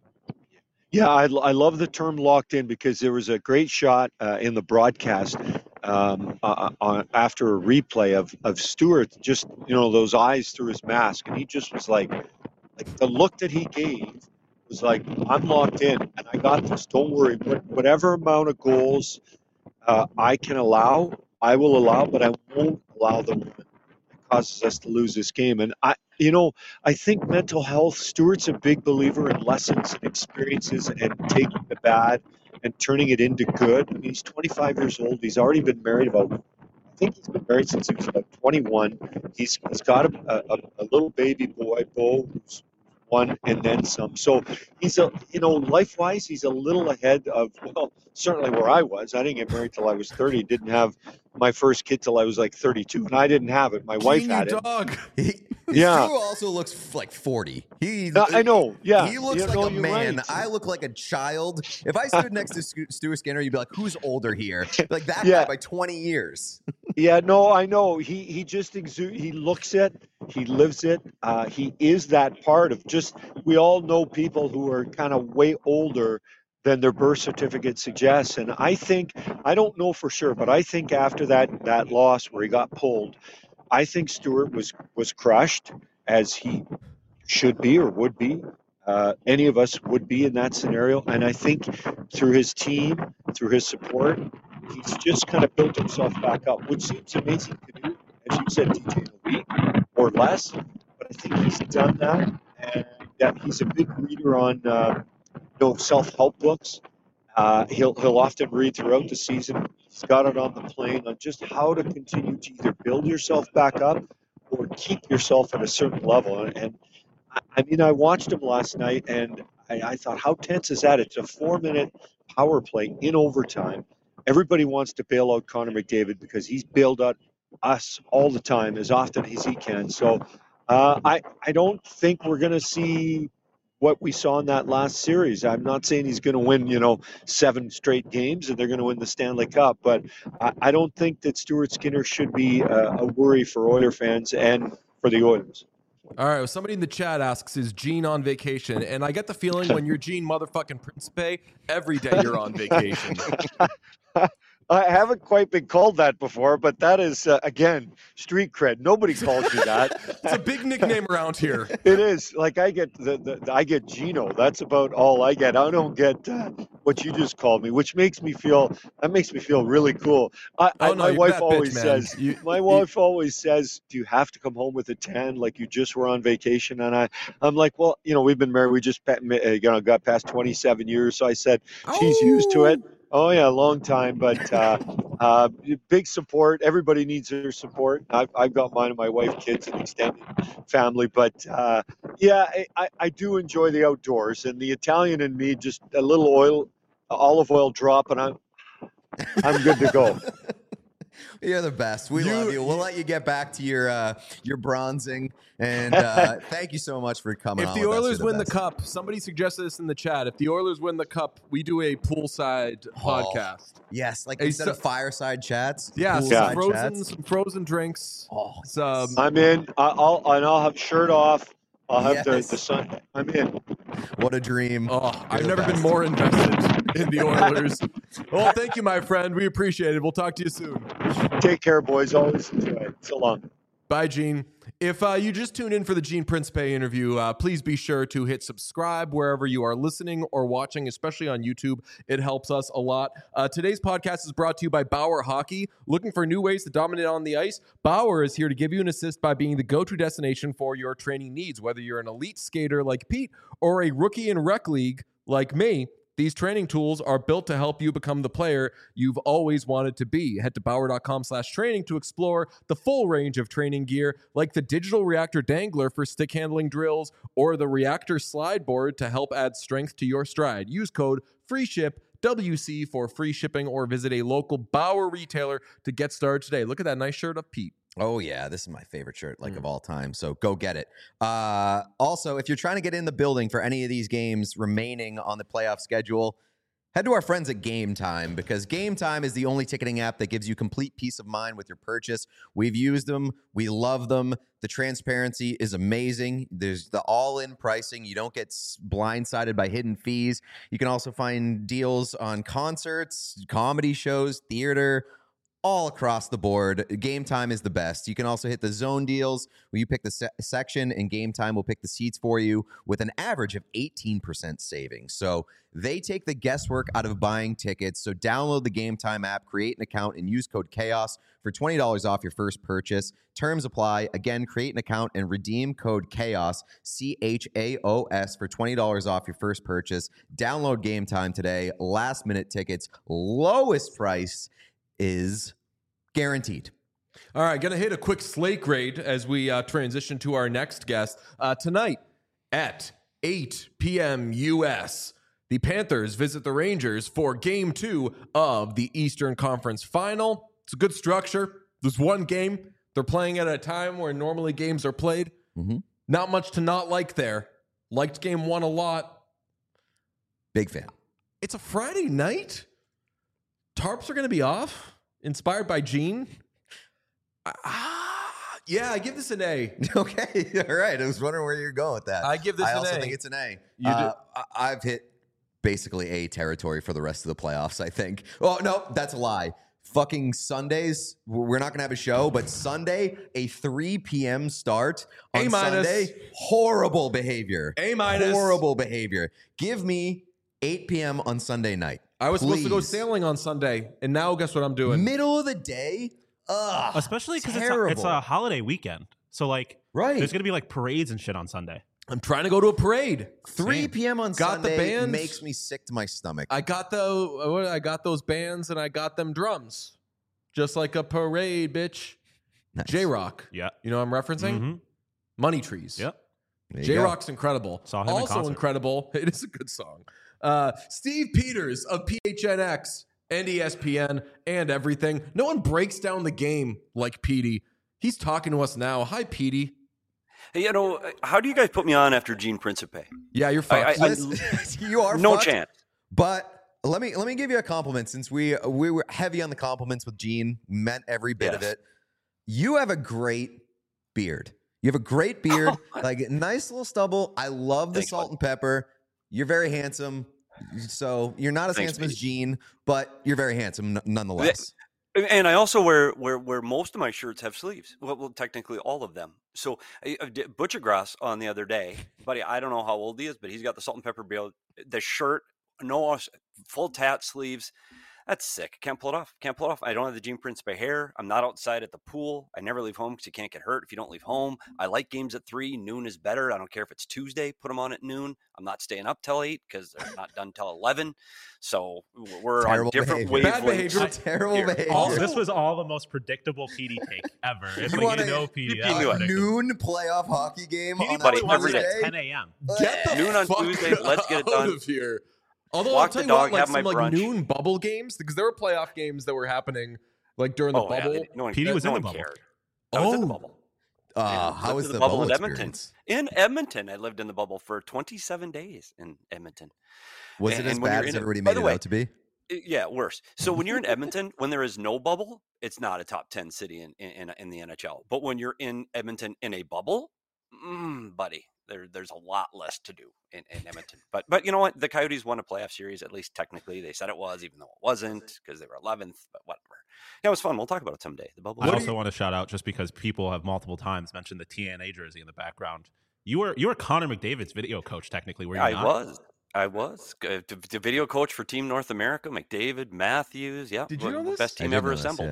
Yeah, I, I love the term locked in, because there was a great shot uh, in the broadcast um, uh, on, after a replay of, of Stewart, just, you know, those eyes through his mask. And he just was like, like the look that he gave was like, I'm locked in and I got this. Don't worry. What, whatever amount of goals uh, I can allow, I will allow, but I won't allow the one that causes us to lose this game. And I, you know, I think mental health, Stewart's a big believer in lessons and experiences and taking the bad and turning it into good. I mean, he's twenty-five years old. He's already been married about, I think he's been married since he was about twenty-one. He's, he's got a, a, a little baby boy, Bo, who's one and then some. So he's a, you know, life-wise, he's a little ahead of, well, certainly where I was. I didn't get married till I was thirty. Didn't have my first kid till I was like thirty-two, and I didn't have it. My wife Gene, had you it. dog. He, Yeah. Stu also looks f- like forty. He, Uh, I know. Yeah, He looks You like know, a you're man. right. I look like a child. If I stood next to Stu- Stuart Skinner, you'd be like, "Who's older here?" Like that Yeah. guy by twenty years. Yeah, no, I know. He he just exude. He looks it. He lives it. Uh, he is that part of just. We all know people who are kind of way older than their birth certificate suggests, and I think I don't know for sure, but I think after that that loss where he got pulled, I think Stewart was was crushed, as he should be or would be. Uh, any of us would be in that scenario, and I think through his team, through his support, he's just kind of built himself back up, which seems amazing to do, as you said, D J, in a week or less. But I think he's done that, and that he's a big reader on uh, you know, self-help books. Uh, he'll he'll often read throughout the season. He's got it on the plane on just how to continue to either build yourself back up or keep yourself at a certain level. And, and I, I mean, I watched him last night, and I, I thought, how tense is that? It's a four-minute power play in overtime. Everybody wants to bail out Connor McDavid because he's bailed out us all the time, as often as he can. So uh, I I don't think we're going to see what we saw in that last series. I'm not saying he's going to win, you know, seven straight games and they're going to win the Stanley Cup, but I, I don't think that Stuart Skinner should be a, a worry for Oiler fans and for the Oilers. All right, well, somebody in the chat asks, is Gene on vacation? And I get the feeling when you're Gene motherfucking Principe, every day you're on vacation. I haven't quite been called that before, but that is, uh, again, street cred. Nobody calls me that. It's a big nickname around here. It is. Like I get the, the I get Gino. That's about all I get. I don't get uh, what you just called me, which makes me feel that makes me feel really cool. I, Oh, I, no, my you're wife that always bitch, man. says. You- My you- wife always says, "Do you have to come home with a tan like you just were on vacation?" And I, I'm like, "Well, you know, we've been married. We just pa- uh, you know got past twenty-seven years." So I said, "She's used to it." Oh yeah, a long time, but uh, uh, big support. Everybody needs their support. I've, I've got mine and my wife, kids, and extended family. But uh, yeah, I, I, I do enjoy the outdoors, and the Italian in me, just a little oil olive oil drop, and I'm I'm good to go. You're the best. We You- love you. We'll let you get back to your uh, your bronzing, and uh, thank you so much for coming. If on the with us. Oilers You're win the best. cup, somebody suggested this in the chat. If the Oilers win the cup, we do a poolside Oh. podcast. yes, like Hey, instead so- of fireside chats, Yeah, some poolside frozen, chats. some frozen drinks. Oh, Some, I'm in. I- I'll and I'll have shirt off. I'll have Yes. the the sun. I'm in. what a dream! oh, I've the never been best. more invested in the Oilers. Well, thank you, my friend. We appreciate it. We'll talk to you soon. Take care, boys. Always enjoy it. So long. Bye, Gene. If uh, you just tuned in for the Gene Principe interview, uh, please be sure to hit subscribe wherever you are listening or watching, especially on YouTube. It helps us a lot. Uh, today's podcast is brought to you by Bauer Hockey. Looking for new ways to dominate on the ice? Bauer is here to give you an assist by being the go-to destination for your training needs. Whether you're an elite skater like Pete or a rookie in rec league like me, these training tools are built to help you become the player you've always wanted to be. Head to bauer.com slash training to explore the full range of training gear like the digital reactor dangler for stick handling drills or the reactor slide board to help add strength to your stride. Use code FREESHIP W C for free shipping or visit a local Bauer retailer to get started today. Look at that nice shirt of Pete. Oh yeah, this is my favorite shirt, like Mm. of all time. So go get it. Uh, also, if you're trying to get in the building for any of these games remaining on the playoff schedule, head to our friends at Game Time, because Game Time is the only ticketing app that gives you complete peace of mind with your purchase. We've used them. We love them. The transparency is amazing. There's the all-in pricing. You don't get s- blindsided by hidden fees. You can also find deals on concerts, comedy shows, theater, all across the board. Game Time is the best. You can also hit the zone deals where you pick the se- section and Game Time will pick the seats for you with an average of eighteen percent savings. So they take the guesswork out of buying tickets. So download the Game Time app, create an account, and use code CHAOS for twenty dollars off your first purchase. Terms apply. Again, create an account and redeem code CHAOS, C H A O S, for twenty dollars off your first purchase. Download Game Time today. Last minute tickets, lowest price is guaranteed. All right, going to hit a quick slate grade as we uh, transition to our next guest. Uh, tonight at eight p.m. U S, the Panthers visit the Rangers for game two of the Eastern Conference Final. It's a good structure. There's one game. They're playing at a time where normally games are played. Mm-hmm. Not much to not like there. Liked game one a lot. Big fan. It's a Friday night. Tarps are going to be off. Inspired by Gene. Ah, yeah, I give this an A. Okay, all right. I was wondering where you're going with that. I give this I an also A. think it's an A. You uh, I- I've hit basically A territory for the rest of the playoffs, I think. Oh, no, that's a lie. Fucking Sundays, we're not going to have a show, but Sunday, a three p.m. start on A minus. Sunday, horrible behavior. A minus. Horrible behavior. Give me eight p.m. on Sunday night. I was supposed to go Please. sailing on Sunday, and now guess what I'm doing? Middle of the day? Ugh. Especially because it's, a- terrible. it's a holiday weekend. So, like, Right. there's going to be, like, parades and shit on Sunday. I'm trying to go to a parade. three p.m. on Got the Sunday bands. makes me sick to my stomach. I got the what- I got those bands and I got them drums, just like a parade, bitch. Nice. J Rock, Yeah. you know what I'm referencing? Mhm. Money Trees. Yep. There you J go. Rock's incredible. Saw him in also concert. incredible. It is a good song. Uh, Steve Peters of P H N X and E S P N and everything. No one breaks down the game like Petey. He's talking to us now. Hi, Petey. Hey, you know, how do you guys put me on after Gene Principe? Yeah, you're I- fucked. I- Listen, you are No fucked, chance. But let me let me give you a compliment since we we were heavy on the compliments with Gene, meant every bit of Yes. it. You have a great beard. You have a great beard, like nice little stubble. I love the Thanks, salt bud. and pepper. You're very handsome. So you're not as Thanks, handsome as Pete. Gene, but you're very handsome n- nonetheless. And I also wear where where most of my shirts have sleeves. Well, well technically all of them. So I, I did Butcher Grass on the other day, buddy. I don't know how old he is, but he's got the salt and pepper beard. The shirt, no full tat sleeves. That's sick. Can't pull it off. Can't pull it off. I don't have the Gene Principe hair. I'm not outside at the pool. I never leave home because you can't get hurt if you don't leave home. I like games at three. Noon is better. I don't care if it's Tuesday. Put them on at noon. I'm not staying up till eight because they're not done till eleven. So we're Terrible on different behavior. Bad wavelengths. behavior. Terrible Here. behavior. All, this was all the most predictable P D take ever. It's You like, wanna- you know P D. you that's knew it. predictable. Noon playoff hockey game P D on probably that Buddy, wants every it Thursday. at ten a.m. Get the Noon on fuck Tuesday. Let's get it out done. of here. Although Walk I'll tell the you what, dog, like have my some like brunch. noon bubble games, because there were playoff games that were happening like during the Oh, yeah, bubble. they- no one, P D was no in the one bubble. cared. I was in the Oh. bubble. Uh, Yeah, how lived was in the, the bubble bubble in Edmonton. experience? In Edmonton, I lived in the bubble for twenty-seven days in Edmonton. Was And- it as and when you're bad as in it- everybody by made the it way, out to be? I- Yeah, worse. So when you're in Edmonton, when there is no bubble, it's not a top ten city in in, in the N H L. But when you're in Edmonton in a bubble, mm, buddy, there there's a lot less to do in, in Edmonton. But but you know what? The Coyotes won a playoff series, at least technically. They said it was, even though it wasn't, because they were eleventh. But whatever. Yeah, it was fun. We'll talk about it someday. The bubble. I What do also you- want to shout out, just because people have multiple times mentioned the T N A jersey in the background. You were you were Connor McDavid's video coach, technically, were you I not? was. I was Uh, the, the video coach for Team North America. McDavid, Matthews. Yeah, Did you know this? best I team did ever know this, assembled. yeah.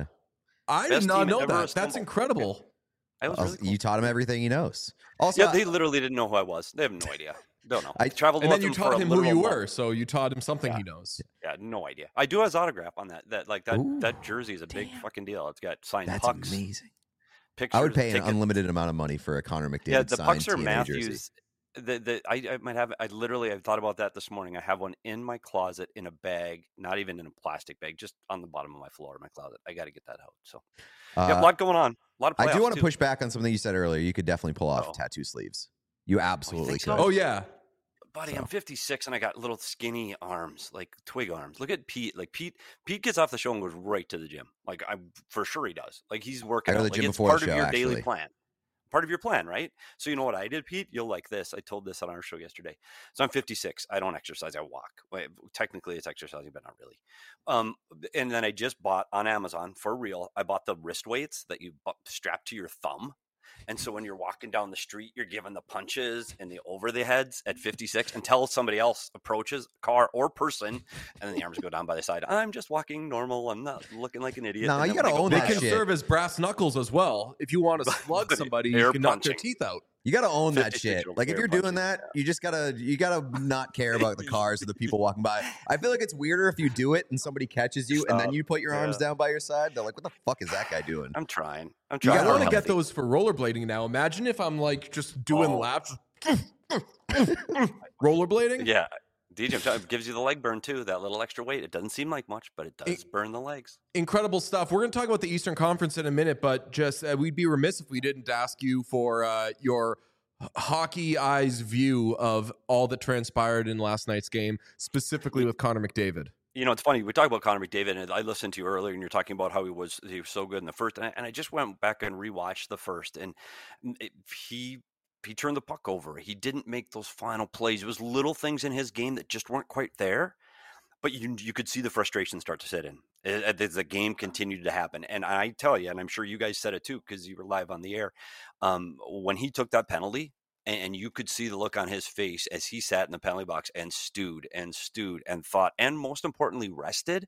I Best did not team know ever that. That's assembled. incredible. I was Also, really cool. You taught him everything he knows. Also, Yeah, they literally didn't know who I was. They have no idea. Don't know. I- I traveled And with then you them for taught a him who literal you month. were, so you taught him something Yeah. he knows. Yeah, no idea. I do have his autograph on that. That like that Ooh, that jersey is a big damn. fucking deal. It's got signed that's pucks, amazing. pictures. I would pay an tickets. unlimited amount of money for a Connor McDavid Yeah, the signed pucks are T N A jersey. Matthews. The, the, I, I might have. I literally. I thought about that this morning. I have one in my closet in a bag, not even in a plastic bag, just on the bottom of my floor in my closet. I got to get that out. So, yeah, Uh, a lot going on. A lot of. I do playoffs, want to too. push back on something you said earlier. You could definitely pull off Uh-oh. tattoo sleeves. You absolutely think could. so? Oh yeah. Buddy, So. I'm fifty-six and I got little skinny arms, like twig arms. Look at Pete. Like Pete, Pete gets off the show and goes right to the gym. Like I, for sure he does. Like he's working. I go to out. the Like gym it's before part the of show, your daily actually. plan. Part of your plan, right? So you know what I did, Pete? You'll like this. I told this on our show yesterday. So I'm fifty-six. I don't exercise. I walk. Wait, technically, it's exercising, but not really. Um, and then I just bought on Amazon for real. I bought the wrist weights that you bu- strap to your thumb. And so when you're walking down the street, you're giving the punches and the over the heads at fifty-six until somebody else approaches, car or person, and then the arms go down by the side. I'm just walking normal. I'm not looking like an idiot. Nah, And you then when gotta I go own They that by- can shit. serve as brass knuckles as well. If you want to slug somebody, Air you can knock their punching. teeth out. You gotta own that fifty-six shit. year old Like if air you're doing punching, that, you just gotta you gotta not care about the cars or the people walking by. I feel like it's weirder if you do it and somebody catches you and then Stop. you put your arms Yeah. down by your side. They're like, "What the fuck is that guy doing?" I'm trying. I'm You trying. I gotta want to own get it. those for rollerblading now. Imagine if I'm like just doing Oh. laps, rollerblading. Yeah. D J, I'm telling you, it gives you the leg burn too. That little extra weight. It doesn't seem like much, but it does burn the legs. Incredible stuff. We're going to talk about the Eastern Conference in a minute, but just uh, we'd be remiss if we didn't ask you for uh, your h- hockey eyes view of all that transpired in last night's game, specifically with Connor McDavid. You know, it's funny. We talk about Connor McDavid, and I listened to you earlier, and you're talking about how he was he was so good in the first, and I, and I just went back and rewatched the first, and it, he he turned the puck over. He didn't make those final plays. It was little things in his game that just weren't quite there, but you you could see the frustration start to set in as the game continued to happen. And I tell you, and I'm sure you guys said it too because you were live on the air, um, when he took that penalty. And you could see the look on his face as he sat in the penalty box and stewed and stewed and thought, and most importantly, rested.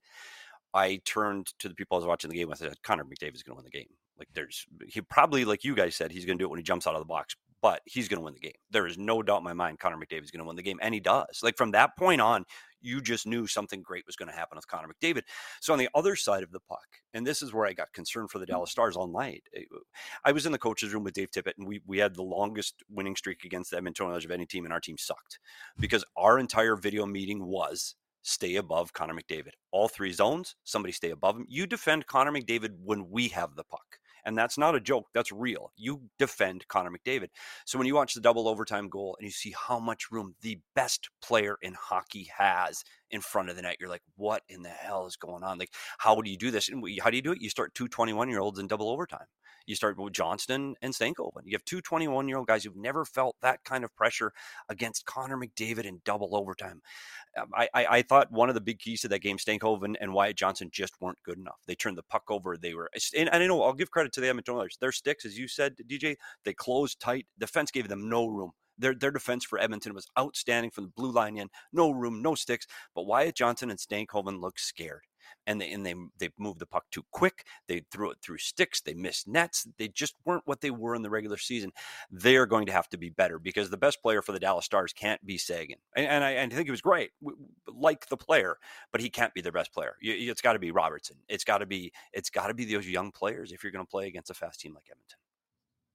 I turned to the people I was watching the game with and said, Connor McDavid's going to win the game. Like there's, he probably, like you guys said, he's going to do it when he jumps out of the box, but he's going to win the game. There is no doubt in my mind Connor McDavid's going to win the game, and he does. Like from that point on, you just knew something great was going to happen with Connor McDavid. So on the other side of the puck, and this is where I got concerned for the Dallas Stars all night. I was in the coach's room with Dave Tippett, and we we had the longest winning streak against the Edmonton Oilers of any team, and our team sucked because our entire video meeting was stay above Connor McDavid. All three zones, somebody stay above him. You defend Connor McDavid when we have the puck. And that's not a joke. That's real. You defend Connor McDavid. So when you watch the double overtime goal and you see how much room the best player in hockey has in front of the net, you're like, what in the hell is going on? Like, how do you do this? And how do you do it? You start two twenty-one-year-olds in double overtime. You start with Johnston and Stankoven. You have two twenty-one-year-old guys who've never felt that kind of pressure against Connor McDavid in double overtime. Um, I, I, I thought one of the big keys to that game, Stankoven and Wyatt Johnson just weren't good enough. They turned the puck over. They were, and, and I know I'll give credit to the Edmonton Oilers. Their sticks, as you said, D J, they closed tight. Defense gave them no room. Their their defense for Edmonton was outstanding from the blue line in. No room, no sticks. But Wyatt Johnson and Stankoven looked scared. And they and they they moved the puck too quick. They threw it through sticks. They missed nets. They just weren't what they were in the regular season. They are going to have to be better because the best player for the Dallas Stars can't be Sagan. And, and I and I think he was great, like the player, but he can't be their best player. You, it's got to be Robertson. It's got to be it's got to be those young players if you're going to play against a fast team like Edmonton.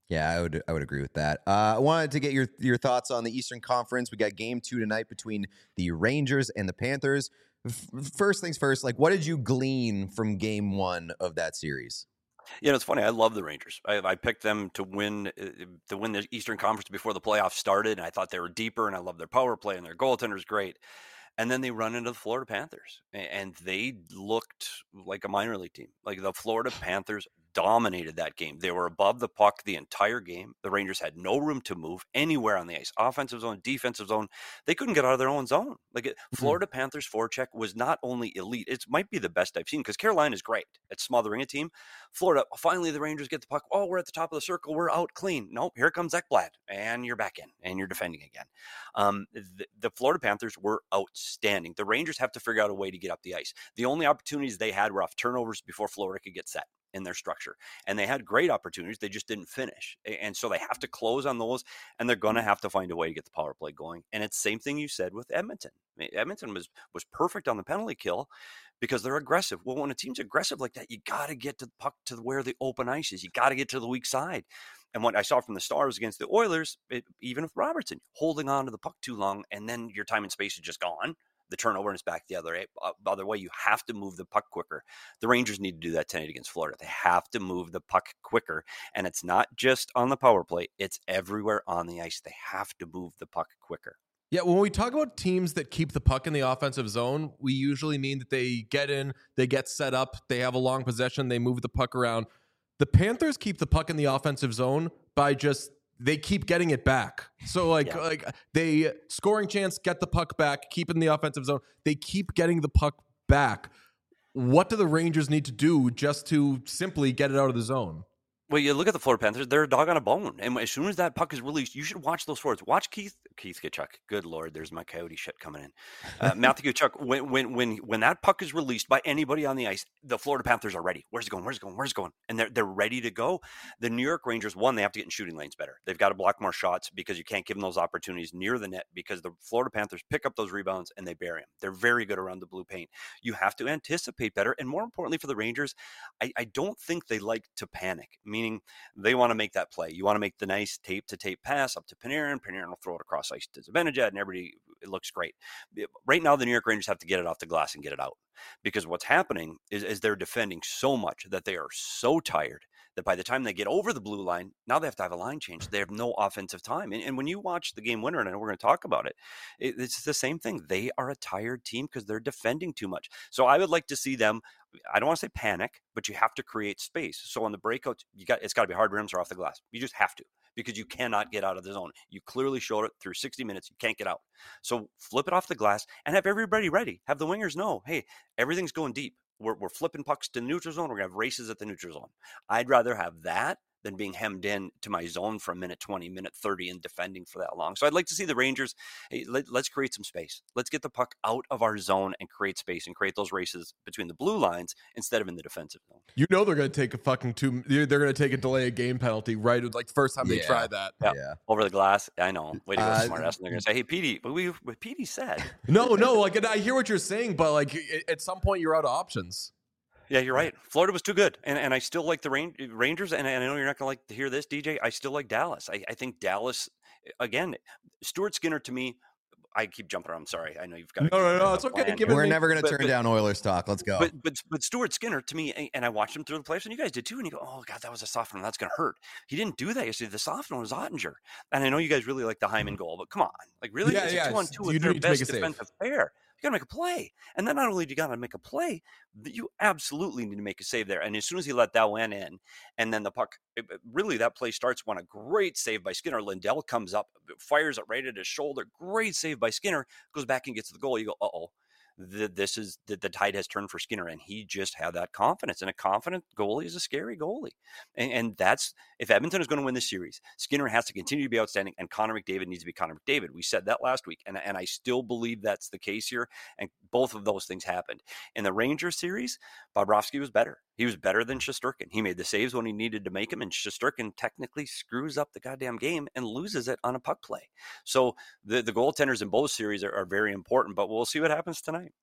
Yeah, I would I would agree with that. Uh, I wanted to get your your thoughts on the Eastern Conference. We got game two tonight between the Rangers and the Panthers. F- first things first, like what did you glean from game one of that series? You know, it's funny. I love the Rangers. I, I picked them to win uh, to win the Eastern Conference before the playoffs started, and I thought they were deeper. And I love their power play and their goaltender's great. And then they run into the Florida Panthers, and they looked like a minor league team. Like the Florida Panthers dominated that game. They were above the puck the entire game. The Rangers had no room to move anywhere on the ice, offensive zone, defensive zone. They couldn't get out of their own zone. Like it, Mhm. Florida Panthers forecheck was not only elite, it might be the best I've seen because Carolina is great at smothering a team. Florida, finally the Rangers get the puck. Oh, we're at the top of the circle. We're out clean. Nope, here comes Ekblad, and you're back in, and you're defending again. Um, the, the Florida Panthers were outstanding. The Rangers have to figure out a way to get up the ice. The only opportunities they had were off turnovers before Florida could get set in their structure. And they had great opportunities. They just didn't finish. And so they have to close on those, and they're going to have to find a way to get the power play going. And it's the same thing you said with Edmonton. I mean, Edmonton was was perfect on the penalty kill because they're aggressive. Well, when a team's aggressive like that, you got to get to the puck to where the open ice is. You got to get to the weak side. And what I saw from the Stars against the Oilers, it, even with Robertson, holding on to the puck too long, and then your time and space is just gone. The turnover and it's back the other, uh, other way. You have to move the puck quicker. The Rangers need to do that tonight against Florida. They have to move the puck quicker. And it's not just on the power play. It's everywhere on the ice. They have to move the puck quicker. Yeah, when we talk about teams that keep the puck in the offensive zone, we usually mean that they get in, they get set up, they have a long possession, they move the puck around. The Panthers keep the puck in the offensive zone by just they keep getting it back. So like Yeah. like they scoring chance, get the puck back, keep it in the offensive zone. They keep getting the puck back. What do the Rangers need to do just to simply get it out of the zone? Well, you look at the Florida Panthers, they're a dog on a bone. And as soon as that puck is released, you should watch those forwards. Watch Keith Keith Tkachuk. Good Lord, there's my Coyote shit coming in. Uh, Matthew Tkachuk, when, when, when, when that puck is released by anybody on the ice, the Florida Panthers are ready. Where's it going? Where's it going? Where's it going? And they're, they're ready to go. The New York Rangers, one, they have to get in shooting lanes better. They've got to block more shots because you can't give them those opportunities near the net because the Florida Panthers pick up those rebounds and they bury them. They're very good around the blue paint. You have to anticipate better. And more importantly for the Rangers, I, I don't think they like to panic, meaning they want to make that play. You want to make the nice tape to tape pass up to Panarin. Panarin will throw it across ice to Zibanejad, and everybody, it looks great. Right now, the New York Rangers have to get it off the glass and get it out because what's happening is, is they're defending so much that they are so tired that by the time they get over the blue line, now they have to have a line change. They have no offensive time. And, and when you watch the game winner, and I know we're going to talk about it, it, it's the same thing. They are a tired team because they're defending too much. So I would like to see them, I don't want to say panic, but you have to create space. So on the breakouts, you got it's got to be hard rims or off the glass. You just have to because you cannot get out of the zone. You clearly showed it through sixty minutes. You can't get out. So flip it off the glass and have everybody ready. Have the wingers know, hey, everything's going deep. We're, we're flipping pucks to the neutral zone. We're going to have races at the neutral zone. I'd rather have that than being hemmed in to my zone for a minute twenty, minute thirty and defending for that long. So I'd like to see the Rangers, hey, let, let's create some space. Let's get the puck out of our zone and create space and create those races between the blue lines instead of in the defensive zone. You know they're going to take a fucking two. They're going to take a delay of game penalty, right? Like first time they Yeah. try that. Yeah. Yeah. Over the glass. I know. Way to go, Uh, smart ass. And they're going to say, hey, Petey, what, we, what Petey said. No, no. Like and I hear what you're saying, but like a- at some point you're out of options. Yeah, you're right. Florida was too good. And and I still like the Ran- Rangers. And, and I know you're not going to like to hear this, D J. I still like Dallas. I, I think Dallas, again, Stuart Skinner to me, I keep jumping around. I'm sorry. I know you've got No, no, no. It's okay. Give it We're me- never going to But- turn but- down Oilers talk. Let's go. But but but Stuart Skinner to me, and I watched him through the playoffs, and you guys did too. And you go, oh god, that was a soft one. That's going to hurt. He didn't do that yesterday. The soft one was Ottinger, and I know you guys really like the Hyman goal, but come on, like really, Yeah, it's yeah, a two on it's- two you with do their need to make best a save. defensive pair. You got to make a play, and then not only do you got to make a play, but you absolutely need to make a save there. And as soon as he let that one in, and then the puck, it, it- really that play starts when a great save by Skinner. Lindell comes up, fires it right at his shoulder. Great save by Skinner. Goes back and gets the goal. You go, uh oh. The, this is the, the tide has turned for Skinner, and he just had that confidence. And a confident goalie is a scary goalie, and, and that's if Edmonton is going to win this series, Skinner has to continue to be outstanding, and Connor McDavid needs to be Connor McDavid. We said that last week, and and I still believe that's the case here. And both of those things happened in the Rangers series. Bobrovsky was better. He was better than Shesterkin. He made the saves when he needed to make them, and Shesterkin technically screws up the goddamn game and loses it on a puck play. So the, the goaltenders in both series are, are very important, but we'll see what happens tonight.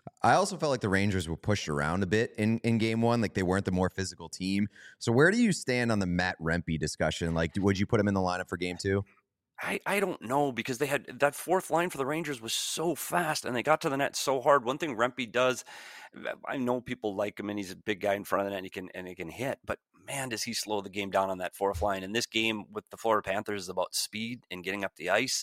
I also felt like the Rangers were pushed around a bit in, in game one. Like they weren't the more physical team. So where do you stand on the Matt Rempe discussion? Like, would you put him in the lineup for game two? I, I don't know, because they had that fourth line for the Rangers was so fast and they got to the net so hard. One thing Rempe does, I know people like him and he's a big guy in front of the net and he can and he can hit, but man, does he slow the game down on that fourth line. And this game with the Florida Panthers is about speed and getting up the ice.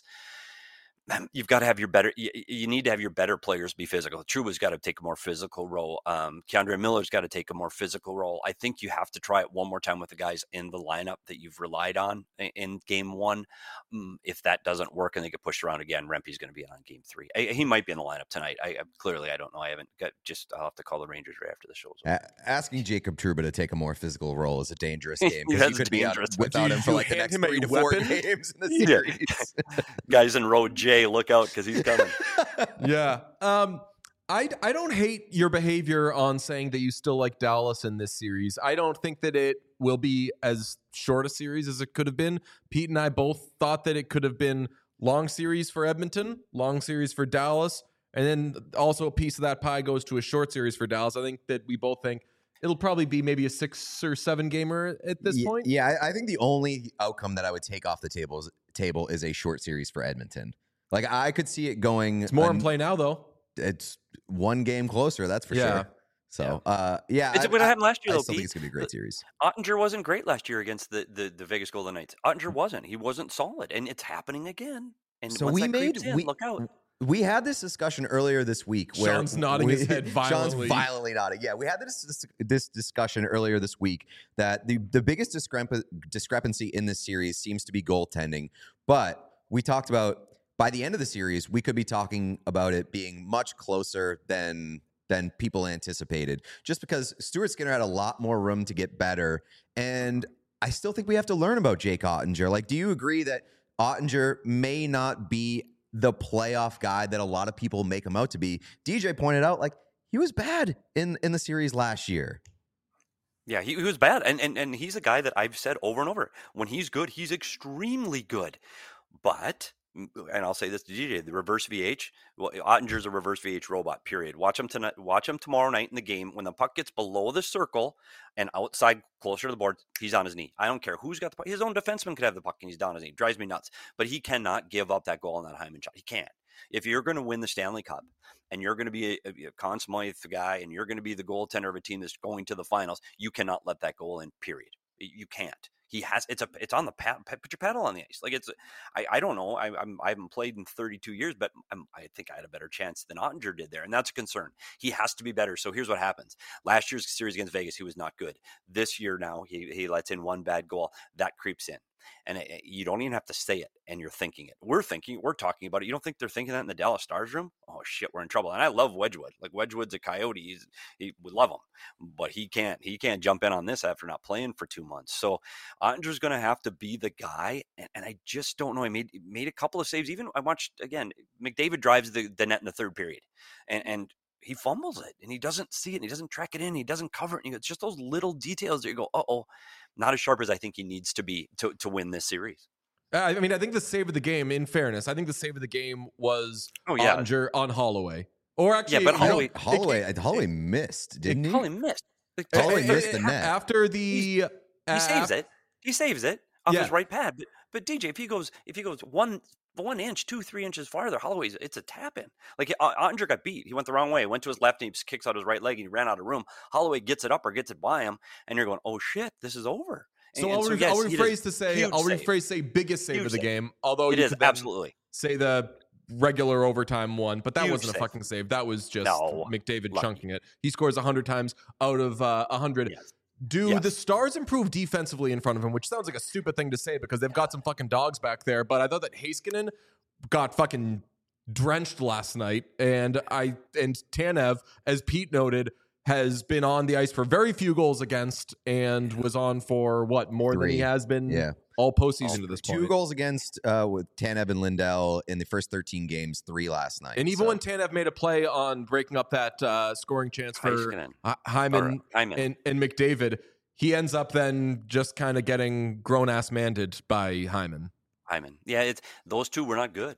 You've got to have your better, you, you need to have your better players be physical. Trouba's got to take a more physical role. Um, Keandre Miller's got to take a more physical role. I think you have to try it one more time with the guys in the lineup that you've relied on in, in game one. Um, if that doesn't work and they get pushed around again, Rempe's going to be on game three. I, he might be in the lineup tonight. I, I clearly, I don't know. I haven't got just, I'll have to call the Rangers right after the show's over. A- asking Jacob Trouba to take a more physical role is a dangerous game, because That's you could be out dangerous. without Do him you- for you like the hand next him a three to four weapon? games in the Yeah. series. Guys in row J, look out, because he's coming. Yeah. Um, I, I don't hate your behavior on saying that you still like Dallas in this series. I don't think that it will be as short a series as it could have been. Pete and I both thought that it could have been long series for Edmonton, long series for Dallas, and then also a piece of that pie goes to a short series for Dallas. I think that we both think it'll probably be maybe a six or seven gamer at this Ye- point. Yeah, I, I think the only outcome that I would take off the table is, table is a short series for Edmonton. Like I could see it going. It's more in an- play now, though. It's one game closer, that's for Yeah. sure. So, uh, yeah, It's I, what I- happened last year, I though, still think Pete. it's gonna be a great series. Ottinger wasn't great last year against the, the, the Vegas Golden Knights. Ottinger wasn't. He wasn't solid, and it's happening again. And So once we that made creeps in, we, look out. we had this discussion earlier this week where Sean's nodding we, his head violently. Sean's violently nodding. Yeah, we had this this, this discussion earlier this week that the the biggest discrep- discrepancy in this series seems to be goaltending. But we talked about by the end of the series, we could be talking about it being much closer than than people anticipated, just because Stuart Skinner had a lot more room to get better. And I still think we have to learn about Jake Ottinger. Like, do you agree that Ottinger may not be the playoff guy that a lot of people make him out to be? D J pointed out, like, he was bad in, in the series last year. Yeah, he, he was bad. And, and and he's a guy that I've said over and over. When he's good, he's extremely good. But, and I'll say this to D J, the reverse V H, well, Ottinger's a reverse V H robot, period. Watch him tonight. Watch him tomorrow night in the game. When the puck gets below the circle and outside closer to the board, he's on his knee. I don't care who's got the puck. His own defenseman could have the puck and he's down on his knee. Drives me nuts. But he cannot give up that goal on that Hyman shot. He can't. If you're going to win the Stanley Cup and you're going to be a, a Conn Smythe guy and you're going to be the goaltender of a team that's going to the finals, you cannot let that goal in, period. You can't. He has it's a it's on the pad, put your paddle on the ice. Like it's I, I don't know. I I'm, I haven't played in thirty-two years, but I'm, I think I had a better chance than Ottinger did there, and that's a concern. He has to be better. So here's what happens: last year's series against Vegas, he was not good. This year now, he he lets in one bad goal that creeps in, and it, you don't even have to say it, and you're thinking it. We're thinking, we're talking about it. You don't think they're thinking that in the Dallas Stars room? Oh shit, we're in trouble. And I love Wedgwood. Like Wedgwood's a coyote. He's, he would love him, but he can't. He can't jump in on this after not playing for two months. So Ottinger's going to have to be the guy, and, and I just don't know. He made made a couple of saves. Even I watched again. McDavid drives the, the net in the third period, and and he fumbles it, and he doesn't see it, and he doesn't track it in, he doesn't cover it. And it's just those little details that you go, uh oh, not as sharp as I think he needs to be to to win this series. I mean, I think the save of the game, in fairness, I think the save of the game was Oh yeah, Ottinger on Holloway. Or actually, Yeah, but you know, Holloway- it- Holloway, it- Holloway missed, didn't he? Holloway missed. Like, it- Holloway it- missed it- the net. after the. He saves uh, it. He saves it off Yeah. his right pad. But, but D J, if he goes, if he goes one one inch, two, three inches farther, Holloway's it's a tap in. Like Ottinger got beat. He went the wrong way. Went to his left and he just kicks out his right leg and he ran out of room. Holloway gets it up or gets it by him, and you're going, oh shit, this is over. So And- I'll, and re- yes, I'll he rephrase does. to say Huge I'll save. rephrase say biggest save Huge of the save. game. Although It you is could then absolutely. say the regular overtime one, but that Huge wasn't a save. fucking save. That was just No, McDavid lucky. chunking it. He scores a hundred times out of a uh, hundred. Yes. Do Yes. the Stars improve defensively in front of him? Which sounds like a stupid thing to say because they've got some fucking dogs back there. But I thought that Heiskanen got fucking drenched last night, and I and Tanev, as Pete noted, has been on the ice for very few goals against, and was on for what more than he Three. has been Yeah. all postseason All- to this Two point. goals against uh, with Tanev and Lindell in the first thirteen games, three last night. And even So- when Tanev made a play on breaking up that uh, scoring chance for Heiskanen. Hy- Hyman Or Hyman. and, and McDavid, he ends up then just kind of getting grown ass manded by Hyman. Hyman. Yeah, it's those two were not good.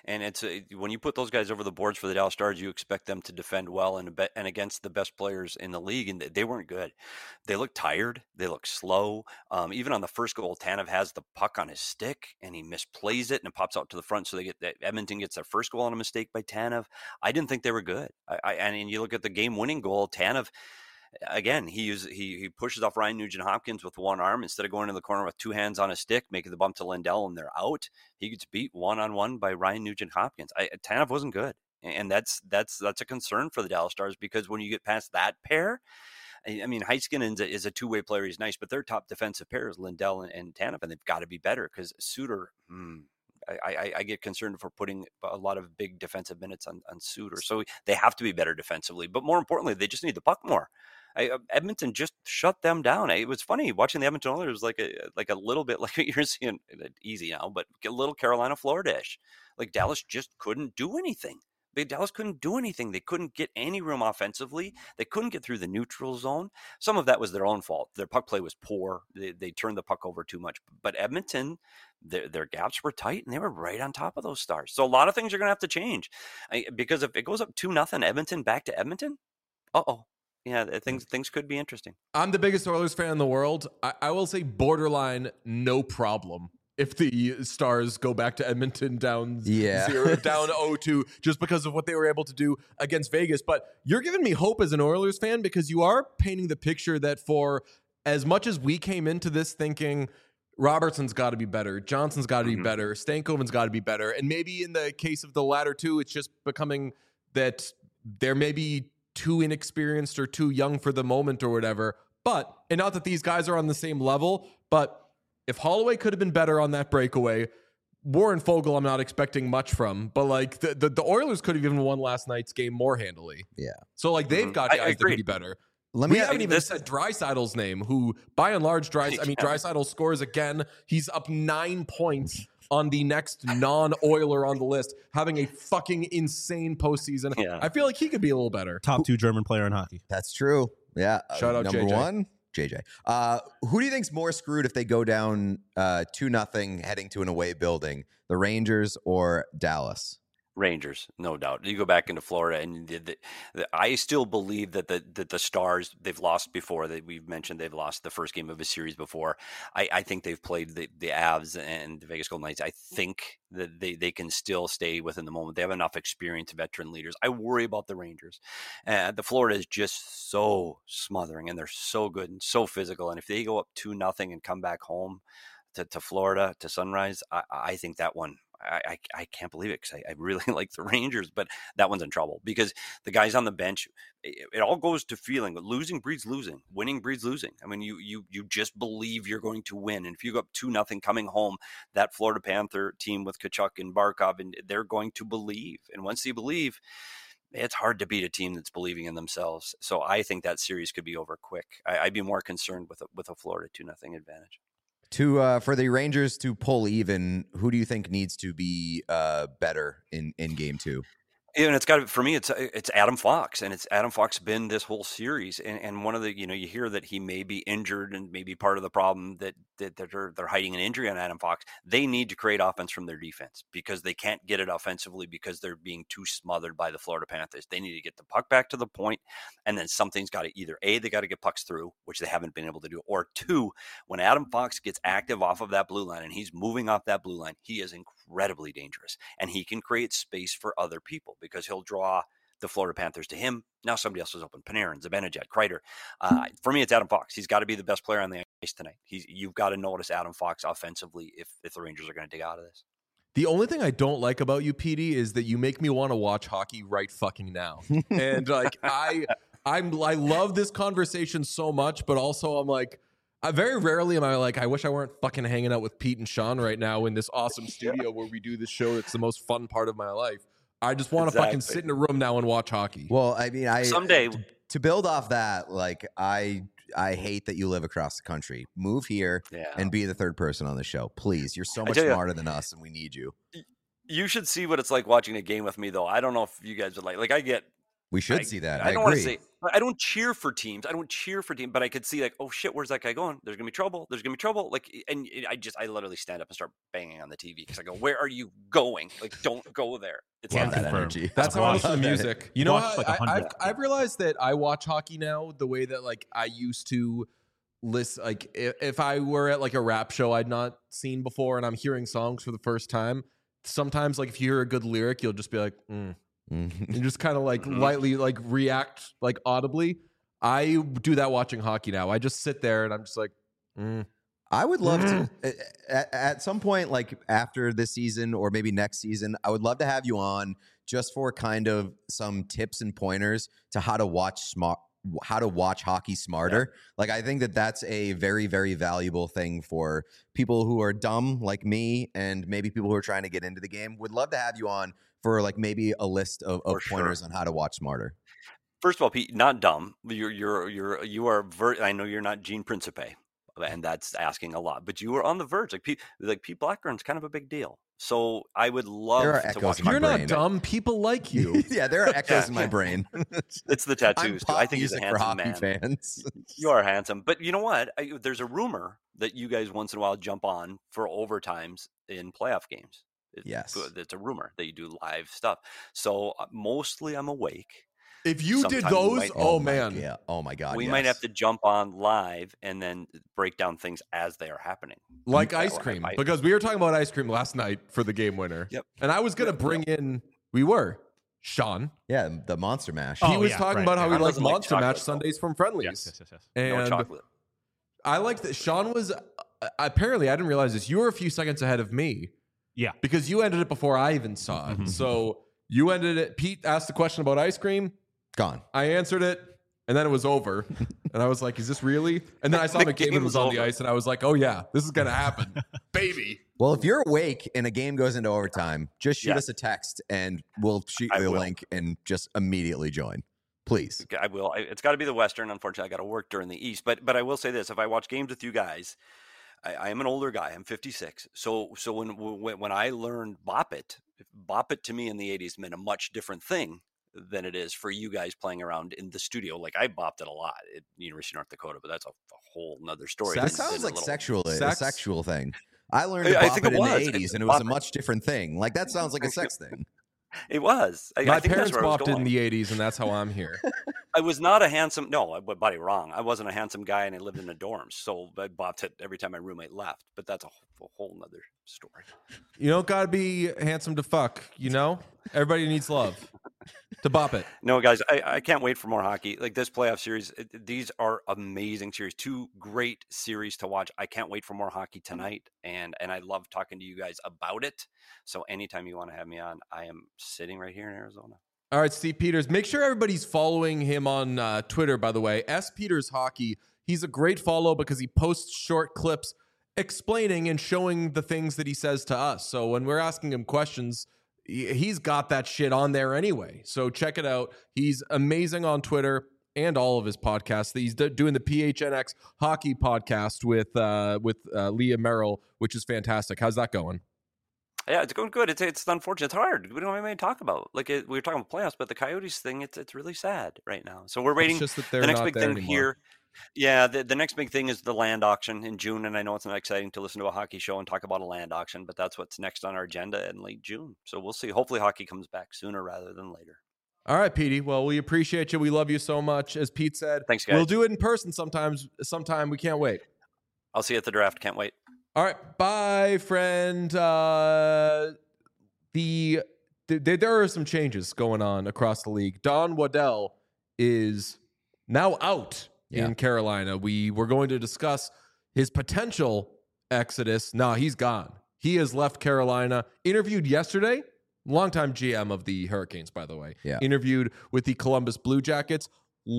And it's a, when you put those guys over the boards for the Dallas Stars, you expect them to defend well and and against the best players in the league, and they weren't good. They look tired. They look slow. Um, even on the first goal, Tanev has the puck on his stick and he misplays it and it pops out to the front. So they get that Edmonton gets their first goal on a mistake by Tanev. I didn't think they were good. I, I and you look at the game-winning goal, Tanev. Again, he uses, he he pushes off Ryan Nugent-Hopkins with one arm instead of going to the corner with two hands on a stick, making the bump to Lindell, and they're out. He gets beat one on one by Ryan Nugent-Hopkins. I, Tanev wasn't good, and that's that's that's a concern for the Dallas Stars because when you get past that pair, I, I mean, Heiskanen is a, is a two way player. He's nice, but their top defensive pair is Lindell and, and Tanev, and they've got to be better because Suter. Hmm, I, I, I get concerned for putting a lot of big defensive minutes on, on Suter. So they have to be better defensively. But more importantly, they just need the puck more. I, Edmonton just shut them down. It was funny watching the Edmonton Oilers, like a like a little bit like what you're seeing, easy now, but a little Carolina Florida-ish. Like Dallas just couldn't do anything. They, Dallas couldn't do anything. They couldn't get any room offensively. They couldn't get through the neutral zone. Some of that was their own fault. Their puck play was poor. They, they turned the puck over too much. But Edmonton, their, their gaps were tight, and they were right on top of those Stars. So a lot of things are going to have to change. I, because if it goes up two nothing Edmonton back to Edmonton, uh-oh. Yeah, things things could be interesting. I'm the biggest Oilers fan in the world. I, I will say borderline no problem if the Stars go back to Edmonton down yeah. zero, down oh two, just because of what they were able to do against Vegas. But you're giving me hope as an Oilers fan because you are painting the picture that for as much as we came into this thinking Robertson's got to be better, Johnson's got to mm-hmm. be better, Stankoven's got to be better, and maybe in the case of the latter two, it's just becoming that there may be too inexperienced or too young for the moment or whatever. But, and not that these guys are on the same level, but if Holloway could have been better on that breakaway, Warren Fogle I'm not expecting much from, but like the, the, the Oilers could have even won last night's game more handily. Yeah. So like they've got I, guys I that could be better. Let me we haven't even this, said Draisaitl's name, who by and large, Dreisaitl, I mean, Draisaitl scores again. He's up nine points on the next non-Oiler on the list, having a fucking insane postseason. Yeah. I feel like he could be a little better. Top two German player in hockey. That's true. Yeah. Shout uh, out number J J. one, J J. Uh, who do you think's more screwed if they go down uh, two nothing heading to an away building? The Rangers or Dallas? Rangers, no doubt. You go back into Florida, and the, the, the, I still believe that the that the Stars, they've lost before. That we've mentioned they've lost the first game of a series before. I, I think they've played the, the Avs and the Vegas Golden Knights. I think that they, they can still stay within the moment. They have enough experience, veteran leaders. I worry about the Rangers. Uh, the Florida is just so smothering, and they're so good and so physical. And if they go up two nothing and come back home to, to Florida, to Sunrise, I, I think that one. I, I, I can't believe it because I, I really like the Rangers, but that one's in trouble because the guys on the bench, it, it all goes to feeling. Losing breeds losing. Winning breeds losing. I mean, you you you just believe you're going to win. And if you go up two nothing coming home, that Florida Panther team with Tkachuk and Barkov, and they're going to believe. And once they believe, it's hard to beat a team that's believing in themselves. So I think that series could be over quick. I, I'd be more concerned with a, with a Florida two nothing advantage. To uh, for the Rangers to pull even, who do you think needs to be uh, better in, in game two? And it's got for me. It's it's Adam Fox, and it's Adam Fox been this whole series. And, and one of the you know you hear that he may be injured, and maybe part of the problem that that they're they're hiding an injury on Adam Fox. They need to create offense from their defense because they can't get it offensively because they're being too smothered by the Florida Panthers. They need to get the puck back to the point, and then something's got to either A, they got to get pucks through, which they haven't been able to do, or two, when Adam Fox gets active off of that blue line and he's moving off that blue line, he is incredibly dangerous, and he can create space for other people because he'll draw the Florida Panthers to him. Now somebody else is open. Panarin, Zibanejad, Kreider. Uh, for me, it's Adam Fox. He's got to be the best player on the ice tonight. He's You've got to notice Adam Fox offensively if, if the Rangers are going to dig out of this. The only thing I don't like about you, P D, is that you make me want to watch hockey right fucking now. And like I, I'm, I love this conversation so much, but also I'm like, I very rarely am I like, I wish I weren't fucking hanging out with Pete and Sean right now in this awesome studio where we do this show. It's the most fun part of my life. I just want to Exactly. fucking sit in a room now and watch hockey. Well, I mean, I Someday. to, to build off that, like I I hate that you live across the country. Move here Yeah. and be the third person on the show, please. You're so I much tell ya. smarter than us, and we need you. You should see what it's like watching a game with me, though. I don't know if you guys would like. Like I get. We should I, see that. I I, don't want agree. to say. I don't cheer for teams. I don't cheer for teams, but I could see like, oh shit, where's that guy going? There's gonna be trouble. There's gonna be trouble. Like, and I just, I literally stand up and start banging on the T V because I go, where are you going? Like, don't go there. It's Love not that that energy. That's how I listen to Love that. music. You know, Watched what? like a I, I've, hundred. I've realized that I watch hockey now the way that like I used to listen. Like if, if I were at like a rap show I'd not seen before and I'm hearing songs for the first time, sometimes like if you hear a good lyric, you'll just be like, mm. Mhm. and just kind of like Mhm. lightly like react like audibly. I do that watching hockey now. I just sit there and I'm just like, mm. I would love to at, at some point, like after this season or maybe next season, I would love to have you on just for kind of some tips and pointers to how to watch smart, how to watch hockey smarter. Yeah. Like I think that that's a very, very valuable thing for people who are dumb like me and maybe people who are trying to get into the game. Would love to have you on for like maybe a list of, of pointers sure. on how to watch smarter. First of all, Pete, not dumb. You're you're you're you are. Ver- I know you're not Gene Principe, and that's asking a lot. But you were on the verge. Like Pete, like Pete Blackburn's kind of a big deal. So I would love There are to echoes watch. in my You're brain. not dumb. People like you. Yeah, there are echoes in my brain. It's the tattoos. I'm Too. I think he's a music for handsome hockey man. fans. You are handsome, but you know what? I, there's a rumor that you guys once in a while jump on for overtimes in playoff games. It, Yes, it's a rumor that you do live stuff. So uh, mostly I'm awake. If you did Sometime we those, might- oh, Oh my- man. yeah. Oh my God. we yes. might have to jump on live and then break down things as they are happening. Like Yeah, ice well, cream, I- because we were talking about ice cream last night for the game winner. Yep. And I was gonna Yep, bring in. We were Sean. Yeah, the Monster Mash. Oh, he was yeah, talking right, about how yeah. he Sean liked doesn't like Monster Match chocolate, though. Sundays from Friendlies. Yes, yes, yes, yes. No And chocolate. I like that Sean was. Uh, apparently, I didn't realize this. You were a few seconds ahead of me Yeah. because you ended it before I even saw it. Mhm. So you ended it. Pete asked the question about ice cream. Gone. I answered it, and then it was over. And I was like, "Is this really?" And then I saw The McDavid game was was on the over. ice, and I was like, "Oh yeah, this is gonna happen, baby." Well, if you're awake and a game goes into overtime, just shoot Yeah. us a text and we'll shoot I you a will. link and just immediately join. Please. I will. I, it's got to be the Western. Unfortunately, I got to work during the East. But but I will say this: if I watch games with you guys, I, I am an older guy. I'm fifty-six. So so when when, when I learned Bop It, Bop It to me in the eighties meant a much different thing than it is for you guys playing around in the studio. Like I bopped it a lot at University of North Dakota, but that's a, a whole nother story. Sex? That It's sounds been a like little- sexual, a Sex? sexual thing. I learned I- to I bop think it it in the was. eighties It's and it was a bop it. much different thing. Like that sounds like a sex thing. It was. I, My I think parents that's where I was bopped it in going. the eighties, and that's how I'm here. I was not a handsome. No, I- buddy, wrong. I wasn't a handsome guy, and I lived in the dorms, so I bopped it every time my roommate left. But that's a, whole- a whole nother story. You don't gotta be handsome to fuck. You know, everybody needs love to bop it. No, guys, I, I can't wait for more hockey. Like this playoff series, it, these are amazing series. Two great series to watch. I can't wait for more hockey tonight, and and I love talking to you guys about it. So anytime you want to have me on, I am sitting right here in Arizona. All right, Steve Peters. Make sure everybody's following him on uh, Twitter, by the way. S. Peters Hockey. He's a great follow because he posts short clips explaining and showing the things that he says to us. So when we're asking him questions, he- he's got that shit on there anyway. So check it out. He's amazing on Twitter and all of his podcasts. He's d- doing the P H N X Hockey podcast with uh, with uh, Leah Merrill, which is fantastic. How's that going? Yeah, it's going good. It's it's unfortunate. It's hard. We don't have anything to talk about. Like it, we were talking about playoffs, but the Coyotes thing, it's it's really sad right now. So we're waiting. It's just that they're The next not big there thing anymore. here. Yeah, the, the next big thing is the land auction in June, and I know it's not exciting to listen to a hockey show and talk about a land auction, but that's what's next on our agenda in late June. So we'll see. Hopefully, hockey comes back sooner rather than later. All right, Petey. Well, we appreciate you. We love you so much. As Pete said, Thanks, guys. we'll do it in person sometimes. Sometime we can't wait. I'll see you at the draft. Can't wait. All right, bye, friend. Uh, the, the there are some changes going on across the league. Don Waddell is now out Yeah. in Carolina. We were going to discuss his potential exodus. No, he's gone. He has left Carolina. Interviewed yesterday. Longtime G M of the Hurricanes, by the way. Yeah. Interviewed with the Columbus Blue Jackets.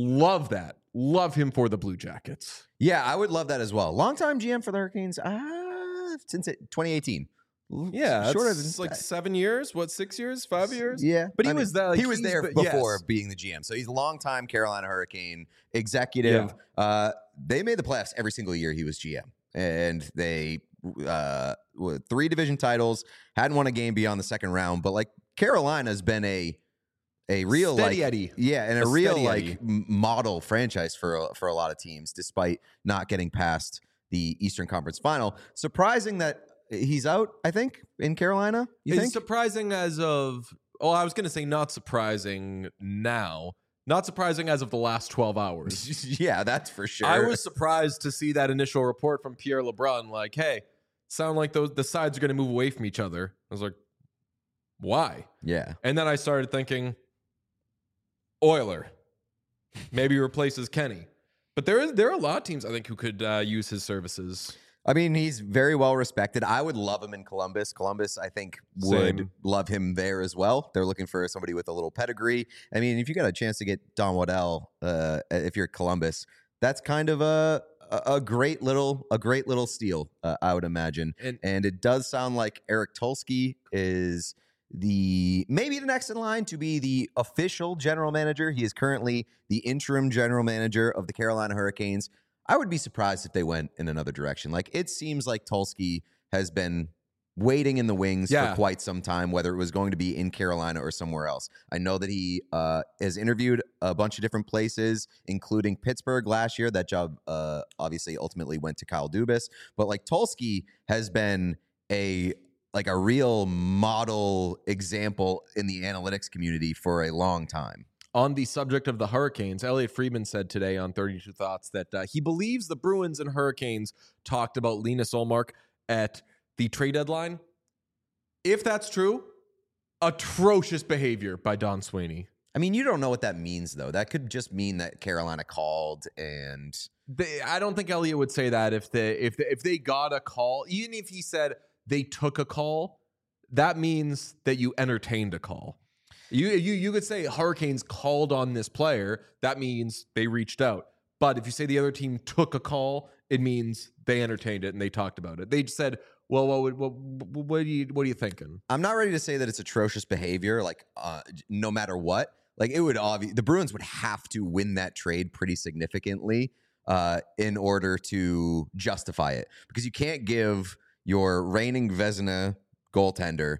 Love that. Love him for the Blue Jackets. Yeah, I would love that as well. Longtime G M for the Hurricanes, uh, since it, twenty eighteen. Yeah, shorter it's than like seven years. What, six years? Five years? Yeah, But he I mean, was there. Like, he was he's there been- before yes. being the G M, so he's a longtime Carolina Hurricane executive. Uh, they made the playoffs every single year he was G M, and they uh, with three division titles, hadn't won a game beyond the second round. But like Carolina's been a a real Steady like Eddie. yeah, and a, A real steady like Eddie. m- model franchise for a, for a lot of teams, despite not getting past the Eastern Conference Final. Surprising that he's out. I think in Carolina. You It's think? surprising as of. Oh, I was going to say not surprising now. Not surprising as of the last twelve hours. Yeah, that's for sure. I was surprised to see that initial report from Pierre LeBrun, like, "Hey, sound like those the sides are going to move away from each other." I was like, "Why?" yeah. And then I started thinking, Euler maybe replaces Kenny. But there is there are a lot of teams I think who could uh, use his services. I mean, he's very well respected. I would love him in Columbus. Columbus, I think, would Same. love him there as well. They're looking for somebody with a little pedigree. I mean, if you got a chance to get Don Waddell, uh, if you're Columbus, that's kind of a a a great little a great little steal, uh, I would imagine. And And it does sound like Eric Tulsky is the maybe the next in line to be the official general manager. He is currently the interim general manager of the Carolina Hurricanes. I would be surprised if they went in another direction. Like, it seems like Tulsky has been waiting in the wings Yeah. for quite some time, whether it was going to be in Carolina or somewhere else. I know that he uh, has interviewed a bunch of different places, including Pittsburgh last year. That job uh, obviously ultimately went to Kyle Dubas. But like, Tulsky has been a like a real model example in the analytics community for a long time. on the subject of the Hurricanes, Elliot Friedman said today on thirty-two Thoughts that uh, he believes the Bruins and Hurricanes talked about Linus Ullmark at the trade deadline. If that's true, atrocious behavior by Don Sweeney. I mean, you don't know what that means, though. That could just mean that Carolina called and They, I don't think Elliot would say that if they if they, if they got a call, even if he said they took a call, that means that you entertained a call. You you you could say Hurricanes called on this player. That means they reached out. But if you say the other team took a call, it means they entertained it and they talked about it. They just said, "Well, what would what, what are you what are you thinking?" I'm not ready to say that it's atrocious behavior, like uh, no matter what. Like, it would obviously, the Bruins would have to win that trade pretty significantly uh, in order to justify it, because you can't give your reigning Vezina goaltender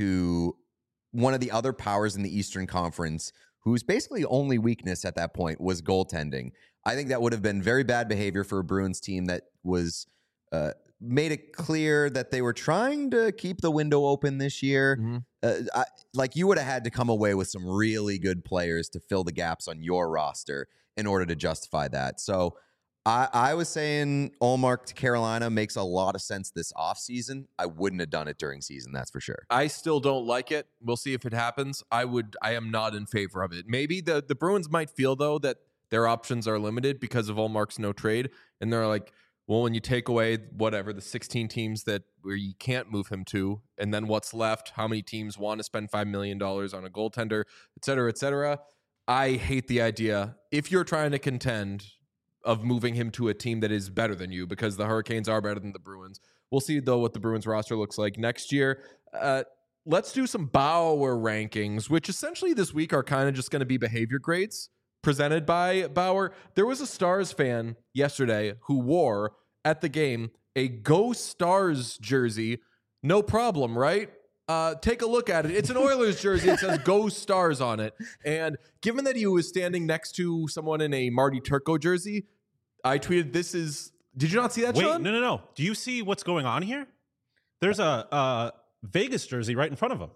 to one of the other powers in the Eastern Conference, whose basically only weakness at that point was goaltending. I think that would have been very bad behavior for a Bruins team that was uh, made it clear that they were trying to keep the window open this year. Mm-hmm. Uh, I, like, you would have had to come away with some really good players to fill the gaps on your roster in order to justify that. So I, I was saying Ullmark to Carolina makes a lot of sense this offseason. I wouldn't have done it during season, that's for sure. I still don't like it. We'll see if it happens. I would. I am not in favor of it. Maybe the the Bruins might feel though that their options are limited because of Ullmark's no trade, and they're like, well, when you take away whatever the sixteen teams that where you can't move him to, and then what's left? How many teams want to spend five million dollars on a goaltender, et cetera, et cetera? I hate the idea. If you're trying to contend, of moving him to a team that is better than you, because the Hurricanes are better than the Bruins. We'll see, though, what the Bruins roster looks like next year. Uh, let's do some Bauer rankings, which essentially this week are kind of just going to be behavior grades presented by Bauer. There was a Stars fan yesterday who wore at the game a Go Stars jersey. No problem, right? Uh, take a look at it. It's an Oilers jersey. It says Go Stars on it. And given that he was standing next to someone in a Marty Turco jersey, I tweeted, this is... Did you not see that, Wait, Sean? no, no, no. Do you see what's going on here? There's a, a Vegas jersey right in front of him.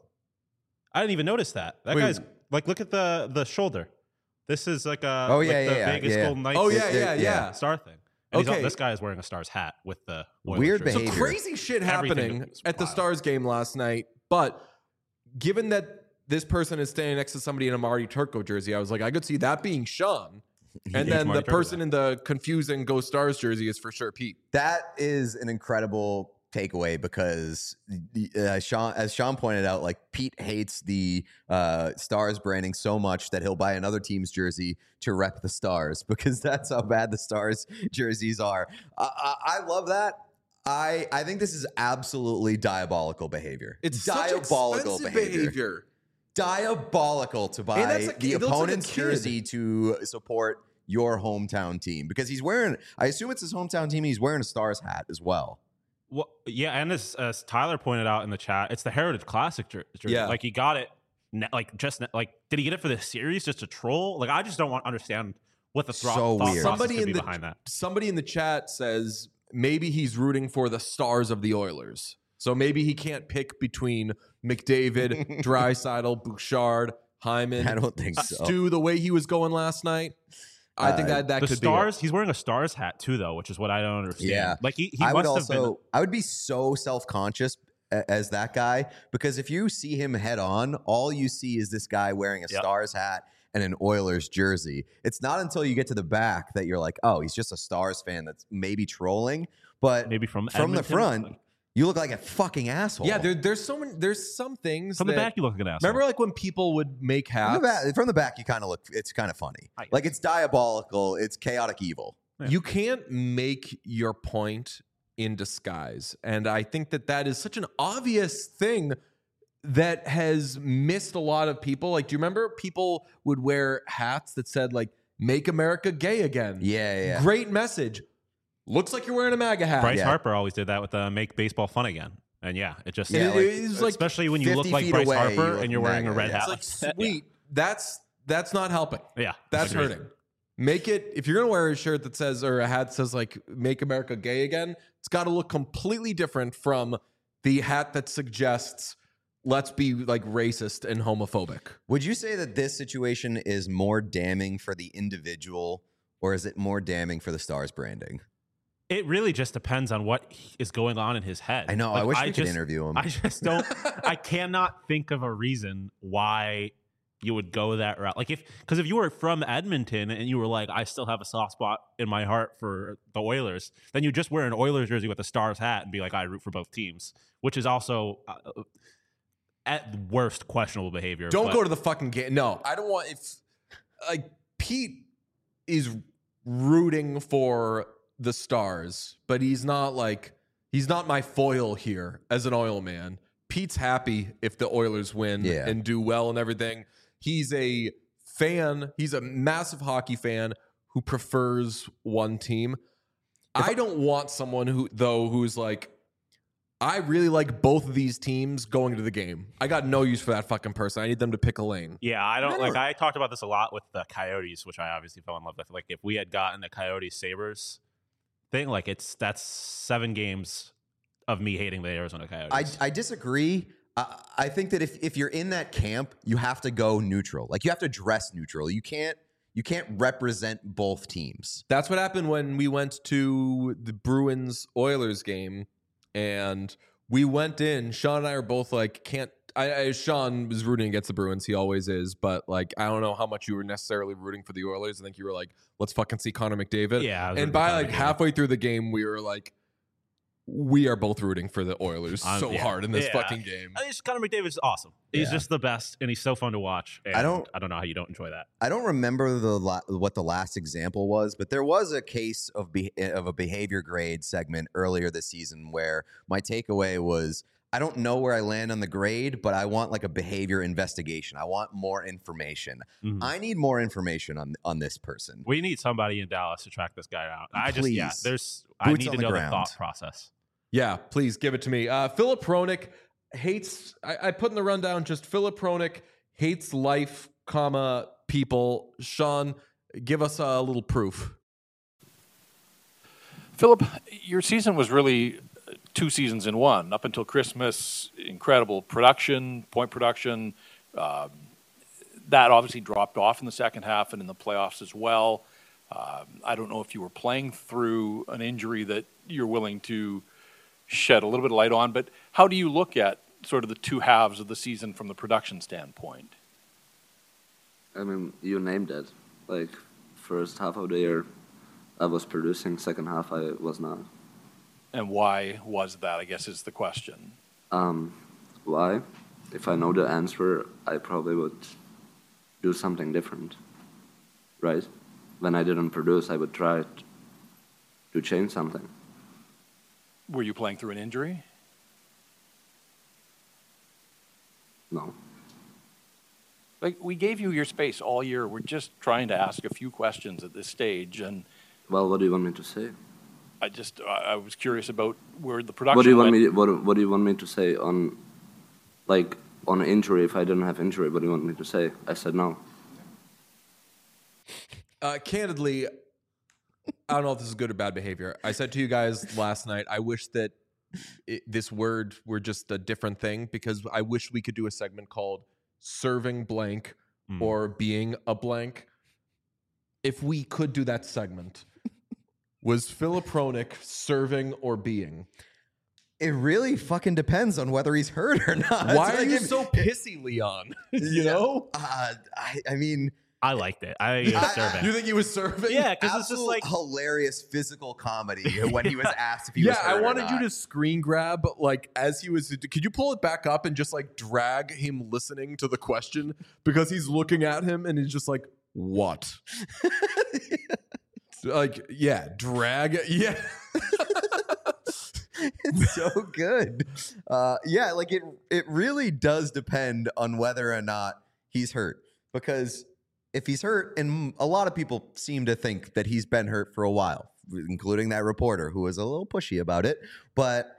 I didn't even notice that. That Wait. guy's like, look at the the shoulder. This is like a Oh, like yeah, the yeah, yeah, Vegas yeah. Golden Knights. Oh, yeah, It- yeah, it- yeah. Star thing. And he's Okay. all, this guy is wearing a Stars hat with the Oilers Weird jersey. behavior. So crazy shit Everything happening is at the wild. Stars game last night. But given that this person is standing next to somebody in a Marty Turco jersey, I was like, I could see that being Sean. And Huge then Marty the Turco person guy. in the confusing Go Stars jersey is for sure Pete. That is an incredible takeaway, because uh, Sean, as Sean pointed out, like, Pete hates the uh, Stars branding so much that he'll buy another team's jersey to rep the Stars, because that's how bad the Stars jerseys are. I, I, I love that. I I think this is absolutely diabolical behavior. It's diabolical such behavior. behavior. Diabolical to buy that's like- the it looks like a opponent's kid. jersey to support your hometown team, because he's wearing, I assume it's his hometown team, and he's wearing a Stars hat as well. Well, yeah, and as, as Tyler pointed out in the chat, it's the Heritage Classic jer- jersey. Yeah. Like, he got it ne- like just ne- like did he get it for the series just to troll? Like I just don't want to understand what the thro- So thought weird. process Somebody could in be the behind that. somebody in the chat says maybe he's rooting for the stars of the Oilers. So maybe he can't pick between McDavid, Draisaitl, Bouchard, Hyman. I don't think so. Stu, the way he was going last night, I think Uh, that that The could stars, be it. he's wearing a stars hat too, though, which is what I don't understand. Yeah. Like he, he I would must have also, been. I would be so self-conscious a- as that guy, because if you see him head on, all you see is this guy wearing a Yep. Stars hat and an Oilers jersey. It's not until you get to the back that you're like, oh, he's just a Stars fan that's maybe trolling. But Maybe from from the Edmonton? front, you look like a fucking asshole. Yeah, there, there's so many. There's some things From the that- back, you look like an asshole. Remember, like when people would make From hats. the back, from the back, you kind of look. It's kind of funny. I- Like it's diabolical. It's chaotic evil. Yeah. You can't make your point in disguise. And I think that that is such an obvious thing that has missed a lot of people. Like, do you remember people would wear hats that said, like, make America gay again? Yeah, yeah. yeah. Great message. Looks like you're wearing a MAGA hat. Bryce Yeah. Harper always did that with uh, make baseball fun again. And yeah, it just Yeah, It- like- it's like, especially when you look fifty like feet Bryce away, you Harper look and you're wearing a MAGA, red yeah. hat. it's like, sweet. That's that's not helping. Yeah, That's agreed. hurting. Make it, if you're going to wear a shirt that says, or a hat that says, like, make America gay again, it's got to look completely different from the hat that suggests, let's be like racist and homophobic. Would you say that this situation is more damning for the individual, or is it more damning for the Stars branding? It really just depends on what is going on in his head. I know. I Like, wish we could just, interview him. I just don't. I cannot think of a reason why you would go that route. Like if, because if you were from Edmonton and you were like, I still have a soft spot in my heart for the Oilers, then you just wear an Oilers jersey with a Stars hat and be like, I root for both teams, which is also uh, at worst questionable behavior. Don't but- go to the fucking game. No, I don't want, if, like, Pete is rooting for the Stars, but he's not like, he's not my foil here as an Oil man. Pete's happy if the Oilers win Yeah. and do well and everything. He's a fan. He's a massive hockey fan who prefers one team. I don't want someone who, though, who's like, I really like both of these teams going to the game. I got no use for that fucking person. I need them to pick a lane. Yeah, I don't I like. don't- I talked about this a lot with the Coyotes, which I obviously fell in love with. Like, if we had gotten the Coyotes Sabres thing, like it's that's seven games of me hating the Arizona Coyotes. I, I disagree. I, I think that if, if you're in that camp, you have to go neutral. Like you have to dress neutral. You can't you can't represent both teams. That's what happened when we went to the Bruins Oilers game, and we went in. Sean and I are both like, can't. I, I Sean was rooting against the Bruins. He always is, but like, I don't know how much you were necessarily rooting for the Oilers. I think you were like, let's fucking see Connor McDavid. Yeah, I was And rooting by for like Connor McDavid. halfway through the game, we were like, we are both rooting for the Oilers Um, so yeah. hard in this Yeah. fucking game. I just Connor McDavid's awesome. He's Yeah. just the best, and he's so fun to watch. And I don't- I don't know how you don't enjoy that. I don't remember the la- what the last example was, but there was a case of be- of a behavior grade segment earlier this season where my takeaway was, I don't know where I land on the grade, but I want like a behavior investigation. I want more information. Mhm. I need more information on on this person. We need somebody in Dallas to track this guy out. I just yeah, Please. there's I Boots need on to the know ground. the thought process. Yeah, please give it to me. Uh, Philip Roenick hates. I, I put in the rundown just Philip Roenick hates life, comma people. Sean, give us a little proof. Philip, your season was really two seasons in one. Up until Christmas, incredible production, point production. Um, that obviously dropped off in the second half and in the playoffs as well. Um, I don't know if you were playing through an injury that you're willing to shed a little bit of light on, but how do you look at sort of the two halves of the season from the production standpoint? I mean, you named it. Like, first half of the year, I was producing. Second half, I was not. And why was that, I guess, is the question. Um, why? If I know the answer, I probably would do something different, right? When I didn't produce, I would try t- to change something. Were you playing through an injury? No. Like, we gave you your space all year. We're just trying to ask a few questions at this stage, and Well, what do you want me to say? I just I I was curious about where the production What do you want went. me? What What do you want me to say on, like, on injury, if I didn't have injury, what do you want me to say? I said no. Uh, candidly, I don't know if this is good or bad behavior. I said to you guys last night, I wish that it, this word were just a different thing, because I wish we could do a segment called serving blank Mm. or being a blank. If we could do that segment, was Filip Hronek serving or being? It really fucking depends on whether he's hurt or not. Why It's are like you if- so pissy, Leon? you Yeah. know? Uh, I, I mean, I liked it. I I- was serving. You think he was serving? Yeah, because it's just absolute like hilarious physical comedy when he was asked if he yeah, was hurt I or wanted you not. to screen grab, like, as he was. Could you pull it back up and just like drag him listening to the question, because he's looking at him and he's just like, "What?" Like, yeah, drag, yeah. It's so good. Uh, yeah, like it. It really does depend on whether or not he's hurt, because if he's hurt, and a lot of people seem to think that he's been hurt for a while, including that reporter who was a little pushy about it. But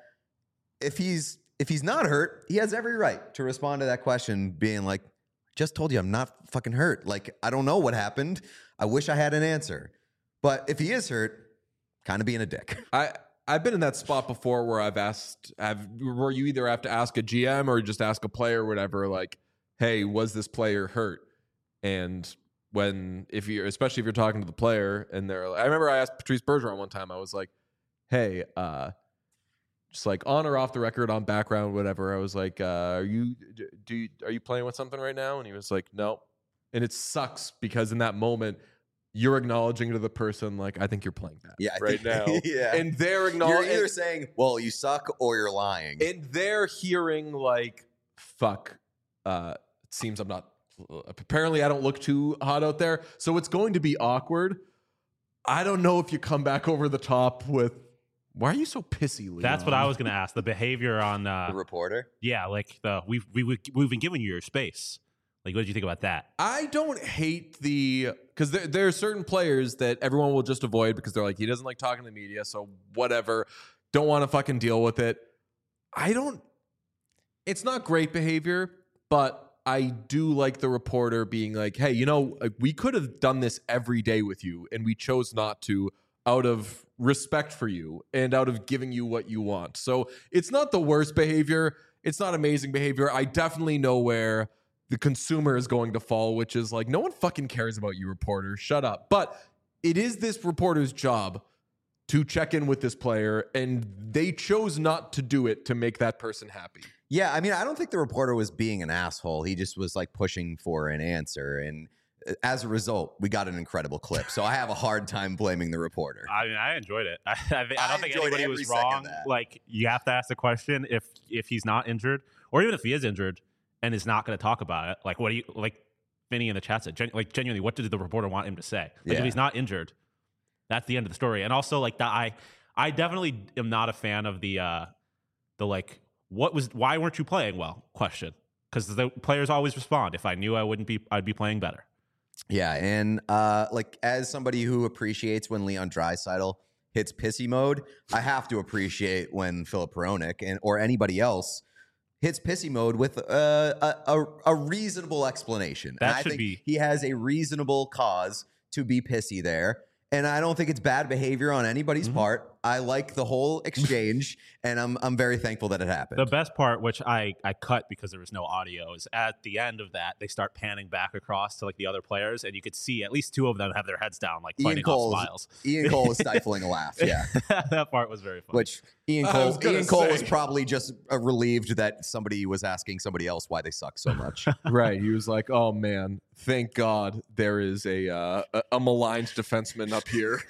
if he's if he's not hurt, he has every right to respond to that question, being like, "Just told you I'm not fucking hurt. Like, I don't know what happened. I wish I had an answer." But if he is hurt, kind of being a dick. I I've been in that spot before where I've asked, I've where you either have to ask a G M or just ask a player or whatever, like, "Hey, was this player hurt?" And when if you're especially if you're talking to the player and they're, I remember I asked Patrice Bergeron one time. I was like, "Hey, uh, just like on or off the record, on background, whatever." I was like, uh, "Are you do you, are you playing with something right now?" And he was like, "No." And it sucks because in that moment, you're acknowledging to the person, like, "I think you're playing bad Yeah, I right think- now," yeah. and they're You're acknowledging. either saying, "Well, you suck," or you're lying. And they're hearing like, "Fuck, uh, it seems I'm not, apparently I don't look too hot out there." So it's going to be awkward. I don't know if you come back over the top with, "Why are you so pissy, Leon?" that's what I was going to ask. The behavior on, the uh, reporter. yeah, like the we've we, we, we've been giving you your space. Like, what did you think about that? I don't hate the, because there, there are certain players that everyone will just avoid because they're like, he doesn't like talking to the media, so whatever. Don't want to fucking deal with it. I don't, it's not great behavior, but I do like the reporter being like, "Hey, you know, like, we could have done this every day with you, and we chose not to out of respect for you and out of giving you what you want." So it's not the worst behavior. It's not amazing behavior. I definitely know where the consumer is going to fall, which is like, no one fucking cares about you, reporter. Shut up. But it is this reporter's job to check in with this player, and they chose not to do it to make that person happy. Yeah, I mean, I don't think the reporter was being an asshole. He just was like pushing for an answer, and as a result, we got an incredible clip. So I have a hard time blaming the reporter. I mean, I enjoyed it. I, I, I don't I think enjoyed anybody every was second of wrong. that. Like, you have to ask the question if if he's not injured, or even if he is injured and is not going to talk about it. Like, what do you like? Vinny in the chat said, gen, like, genuinely, what did the reporter want him to say? Like, Yeah. if he's not injured, that's the end of the story. And also, like, that I I definitely am not a fan of the uh the like, what was why weren't you playing well question, because the players always respond. If I knew I wouldn't be, I'd be playing better. Yeah, and uh, like as somebody who appreciates when Leon Draisaitl hits pissy mode, I have to appreciate when Filip Hronek and or anybody else hits pissy mode with uh, a, a a reasonable explanation. That and I should think be- he has a reasonable cause to be pissy there. And I don't think it's bad behavior on anybody's Mm-hmm. part. I like the whole exchange, and I'm I'm very thankful that it happened. The best part, which I, I cut because there was no audio, is at the end of that, they start panning back across to like the other players, and you could see at least two of them have their heads down, like Ian fighting Cole, off smiles. Ian Cole is stifling a laugh. Yeah. That part was very funny. Which Ian I Cole, was gonna Ian Cole say. was probably just uh, relieved that somebody was asking somebody else why they suck so much. Right. He was like, "Oh man, thank God there is a uh, a, a maligned defenseman up here."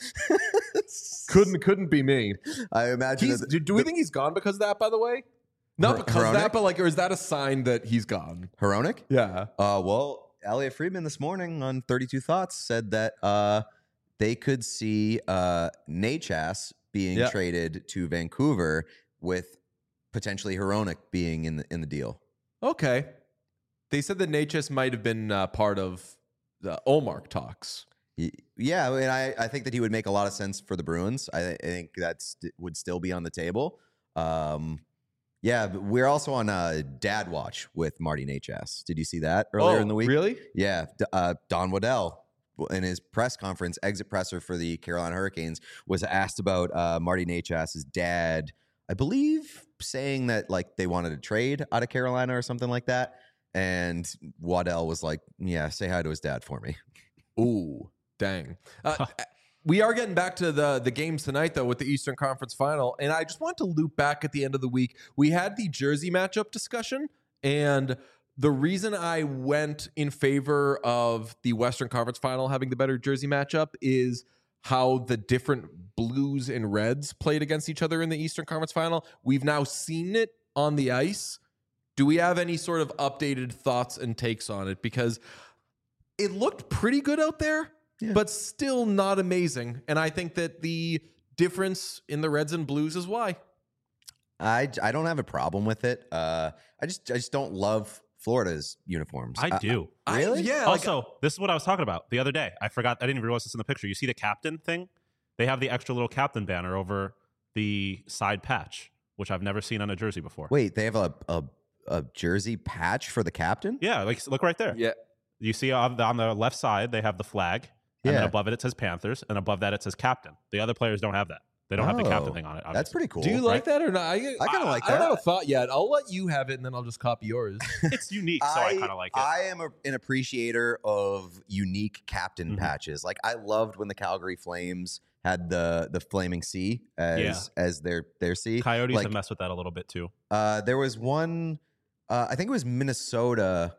couldn't couldn't be me. I imagine. He's, that do, do we think he's gone because of that? By the way, not Hor- because of that, Hronek? but like, or is that a sign that he's gone? Hronek? Yeah. Uh, well, Elliot Friedman this morning on thirty-two Thoughts said that uh, they could see uh, Nachas being Yeah. traded to Vancouver with potentially Hronek being in the in the deal. Okay. They said that Natchez might have been uh, part of the Olmark talks. Y- Yeah, I mean, I, I think that he would make a lot of sense for the Bruins. I, I think that would still be on the table. Um, Yeah, but we're also on uh, Dad Watch with Marty Nachas. Did you see that earlier oh, in the week? Really? Yeah, D- uh, Don Waddell in his press conference, exit presser for the Carolina Hurricanes, was asked about uh, Marty Nachas's dad. I believe saying that like they wanted to trade out of Carolina or something like that, and Waddell was like, "Yeah, say hi to his dad for me." Ooh, dang. Uh, we are getting back to the the games tonight, though, with the Eastern Conference Final. And I just want to loop back at the end of the week. We had the jersey matchup discussion. And the reason I went in favor of the Western Conference Final having the better jersey matchup is how the different blues and reds played against each other in the Eastern Conference Final. We've now seen it on the ice. Do we have any sort of updated thoughts and takes on it? Because it looked pretty good out there. Yeah. But still not amazing. And I think that the difference in the Reds and Blues is why. I, I don't have a problem with it. Uh, I just I just don't love Florida's uniforms. I do. I, really? I, yeah. Also, like, this is what I was talking about the other day. I forgot. I didn't even realize this in the picture. You see the captain thing? They have the extra little captain banner over the side patch, which I've never seen on a jersey before. Wait, they have a a, a jersey patch for the captain? Yeah, like look right there. yeah. You see on the, on the left side, they have the flag. And Yeah. then above it, it says Panthers. And above that, it says captain. The other players don't have that. They don't have the captain Oh, thing on it. That's obviously. pretty cool. Do you like that or not? I, I kinda like I don't that. have a thought yet. I'll let you have it and then I'll just copy yours. It's unique, so I, kind of like it. I am a, an appreciator of unique captain Mhm. patches. Like I loved when the Calgary Flames had the the flaming C as as their their C. Coyotes like, have messed with that a little bit too. Uh, there was one. Uh, I think it was Minnesota.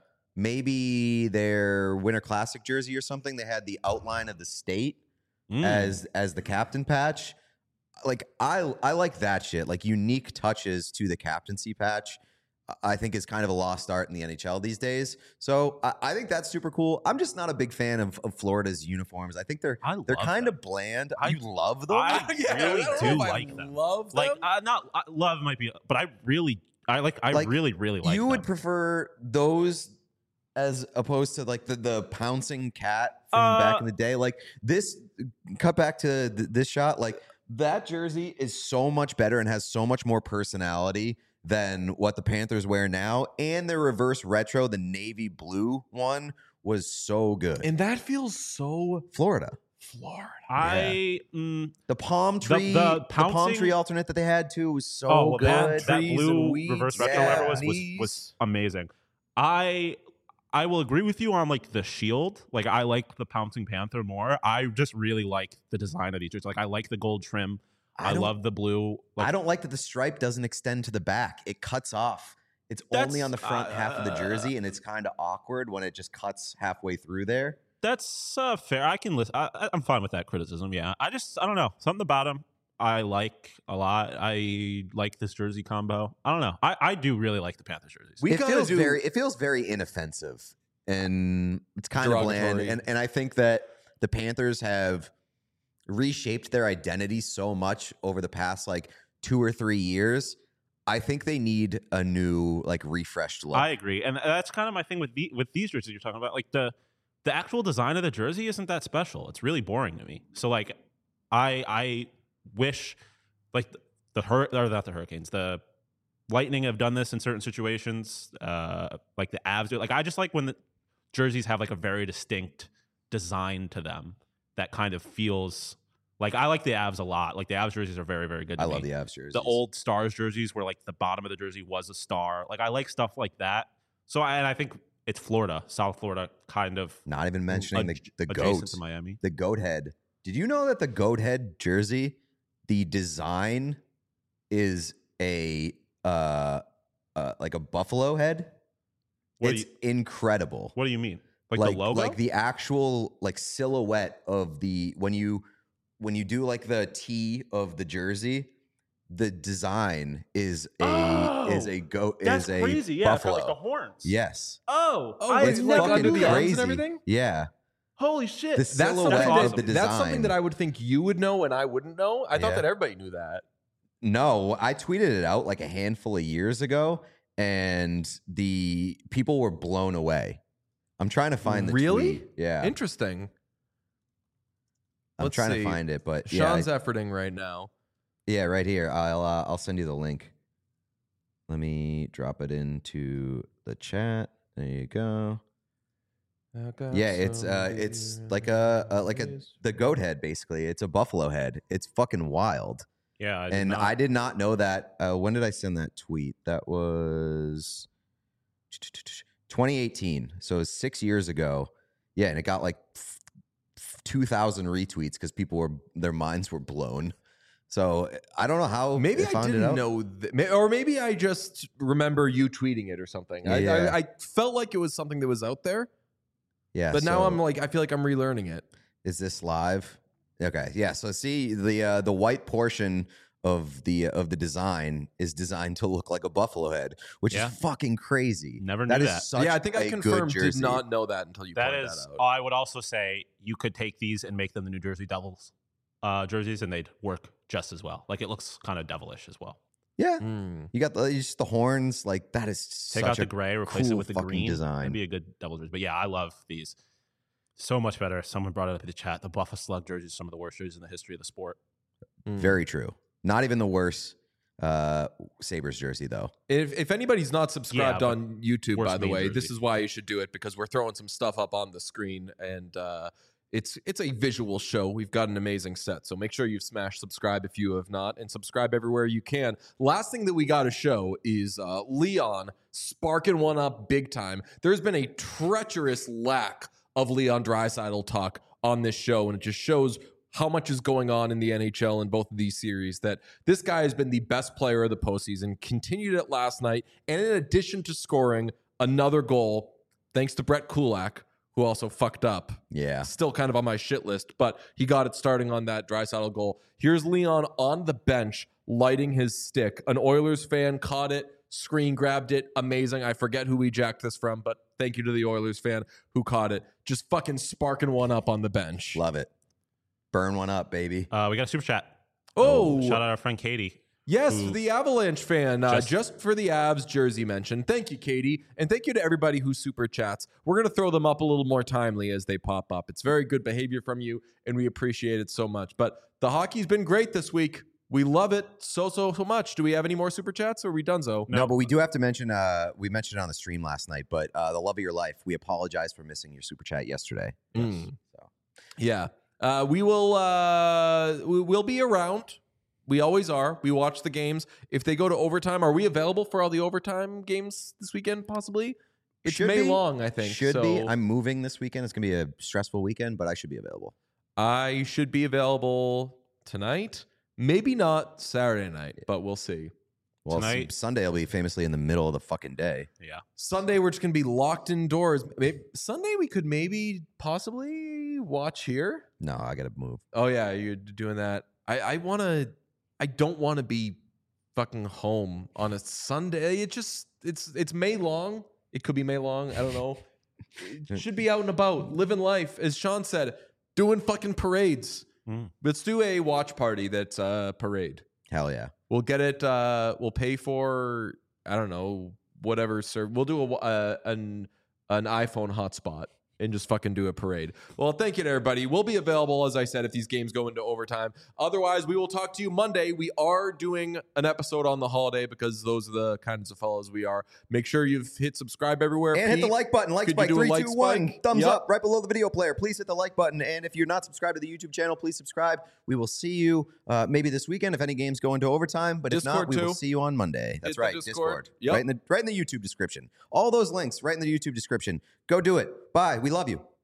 Maybe their Winter Classic jersey or something. They had the outline of the state Mm. as as the captain patch. Like I I like that shit. Like unique touches to the captaincy patch. I think is kind of a lost art in the N H L these days. So I, I think that's super cool. I'm just not a big fan of, of Florida's uniforms. I think they're I they're love kind them. of bland. I- you love them? I Yeah, really I don't do know if I like them. Love Like, them. uh, not uh, love might be, but I really, I like, I Like, really, really like you them. would prefer those as opposed to like the, the pouncing cat from Uh, back in the day. Like this, cut back to th- this shot. Like that jersey is so much better and has so much more personality than what the Panthers wear now. And their reverse retro, the navy blue one, was so good. and that feels so Florida, Florida. I, mm, the palm The- tree, the the, palm pouncing- tree alternate that they had too was so oh, well, good. that, that Trees blue and weeds. reverse retro, Yeah. whatever it was, was, Knees. was amazing. I, I will agree with you on like the shield. Like I like the Pouncing Panther more. I just really like the design of these jerseys. Like I like the gold trim. I, don't- love the blue. Like, I don't like that the stripe doesn't extend to the back. It cuts off. It's only That's- on the front half of the uh, jersey, and it's kind of awkward when it just cuts halfway through there. That's uh, fair. I can listen. I, I- I'm fine with that criticism. Yeah, I just I don't know something about him. I like a lot. I like this jersey combo. I don't know. I, I do really like the Panthers jerseys. We it gotta feels do- very it feels very inoffensive, and it's kind of bland. Derogatory. And and I think that the Panthers have reshaped their identity so much over the past like two or three years. I think they need a new like refreshed look. I agree, and that's kind of my thing with the, with these jerseys you're talking about. Like the the actual design of the jersey isn't that special. It's really boring to me. So like, I I wish like the, the hur or not the Hurricanes, the Lightning have done this in certain situations. Uh, like the Avs do. Like I just like when the jerseys have like a very distinct design to them that kind of feels like I like the Avs a lot. Like the Avs jerseys are very very good. To I me. love the Avs jerseys. The old Stars jerseys where like the bottom of the jersey was a star. Like I like stuff like that. So I, and I think it's Florida, South Florida, kind of Not even mentioning the adj- the adjacent goat, to Miami. the goat head. Did you know that the goat head jersey, the design is a uh, uh like a buffalo head? What do It's you- incredible. What do you mean? Like, like the logo? like the actual like silhouette of the when you when you do like the T of the jersey, the design is a Oh, is a goat That's is a crazy. Yeah, it's got, buffalo. like the horns. Yes. Oh, Oh, I it's had like never under knew the that. arms and crazy. everything? Yeah. Holy shit. The That's silhouette something, awesome. of the that, design. that's something that I would think you would know and I wouldn't know. I thought Yeah. that everybody knew that. No, I tweeted it out like a handful of years ago, and the people were blown away. I'm trying to find the Really? tweet. Yeah, Interesting. I'm Let's trying see. to find it, but yeah, Sean's I- efforting right now. yeah, right here. I'll uh, I'll send you the link. Let me drop it into the chat. There you go. Yeah, it's uh, it's like a, a like a the goat head basically. It's a buffalo head. It's fucking wild. Yeah, I and not, I did not know that. Uh, when did I send that tweet? That was twenty eighteen. So it was six years ago. Yeah, and it got like two thousand retweets because people were their minds were blown. So I don't know how. Maybe I I found didn't it out. know, th- or maybe I just remember you tweeting it or something. I, Yeah. I, I felt like it was something that was out there, Yeah, but now so- I'm like, I feel like I'm relearning it. Is this live? Okay, yeah. So see the uh, the white portion of the uh, of the design is designed to look like a buffalo head, which Yeah. is fucking crazy. Never That knew is that. such Yeah, I think a I good confirmed did jersey. not know that until you that pointed is. that out. I would also say you could take these and make them the New Jersey Devils uh, jerseys, and they'd work just as well. Like it looks kind of devilish as well. Yeah, Mm. you got the just the horns. Like that is Take such out the a gray, replace it cool with the fucking green. design. That'd be a good Devil jersey. But yeah, I love these. So much better. Someone brought it up in the chat. The Buffalo Slug jerseys, some of the worst jerseys in the history of the sport. Mm. Very true. Not even the worst uh, Sabres jersey though. If if anybody's not subscribed Yeah, but on YouTube, worst by the mean way, this jersey. is why you should do it because we're throwing some stuff up on the screen and uh, it's it's a visual show. We've got an amazing set, so make sure you've smashed subscribe if you have not, and subscribe everywhere you can. Last thing that we got to show is uh, Leon sparking one up big time. There's been a treacherous lack of Leon Draisaitl talk on this show, and it just shows how much is going on in the N H L in both of these series, that this guy has been the best player of the postseason, continued it last night, and in addition to scoring another goal, thanks to Brett Kulak, who also fucked up. Yeah. Still kind of on my shit list, but he got it starting on that Draisaitl goal. Here's Leon on the bench, lighting his stick. An Oilers fan caught it, screen grabbed it. Amazing. I forget who we jacked this from, but thank you to the Oilers fan who caught it. Just fucking sparking one up on the bench. Love it. Burn one up, baby. Uh, we got a super chat. Oh, Shout out our friend Katie. yes, who- the Avalanche fan, uh, Just- just for the Avs jersey mention. Thank you, Katie. And thank you to everybody who super chats. We're going to throw them up a little more timely as they pop up. It's very good behavior from you, and we appreciate it so much. But the hockey's been great this week. We love it so, so, so much. Do we have any more super chats or are we done, so? No, but we do have to mention. Uh, we mentioned it on the stream last night, but uh, the love of your life. We apologize for missing your super chat yesterday. Mm. So. Yeah. Uh, we will uh, we will be around. We always are. We watch the games. If they go to overtime, are we available for all the overtime games this weekend, possibly? It's Should May be. long, I think. Should so be. I'm moving this weekend. It's gonna be a stressful weekend, but I should be available. I should be available tonight. Maybe not Saturday night, but we'll see. Well, Tonight- s- Sunday will be famously in the middle of the fucking day. Yeah. Sunday, we're just going to be locked indoors. Maybe, Sunday, we could maybe possibly watch here. No, I gotta move. Oh, yeah, you're doing that. I, I want to, I don't want to be fucking home on a Sunday. It just, it's, it's May long. It could be May long. I don't know. It should be out and about, living life. As Sean said, doing fucking parades. Mm. Let's do a watch party that's a parade. Hell yeah. We'll get it. Uh, we'll pay for I don't know whatever. Sir, we'll do a uh, an an iPhone hotspot and just fucking do a parade. Well, thank you to everybody. We'll be available, as I said, if these games go into overtime. Otherwise, we will talk to you Monday. We are doing an episode on the holiday because those are the kinds of fellows we are. Make sure you've hit subscribe everywhere. And hit the Pete, like button. Like could you spike. do a Three, like two, one. spike? Thumbs Yep. up right below the video player. Please hit the like button. And if you're not subscribed to the YouTube channel, please subscribe. We will see you uh, maybe this weekend if any games go into overtime. But if not, Discord we will too. see you on Monday. That's Hit the right. Discord. Discord. Yep. Right in the right in the YouTube description. All those links right in the YouTube description. Go do it. Bye. We love you.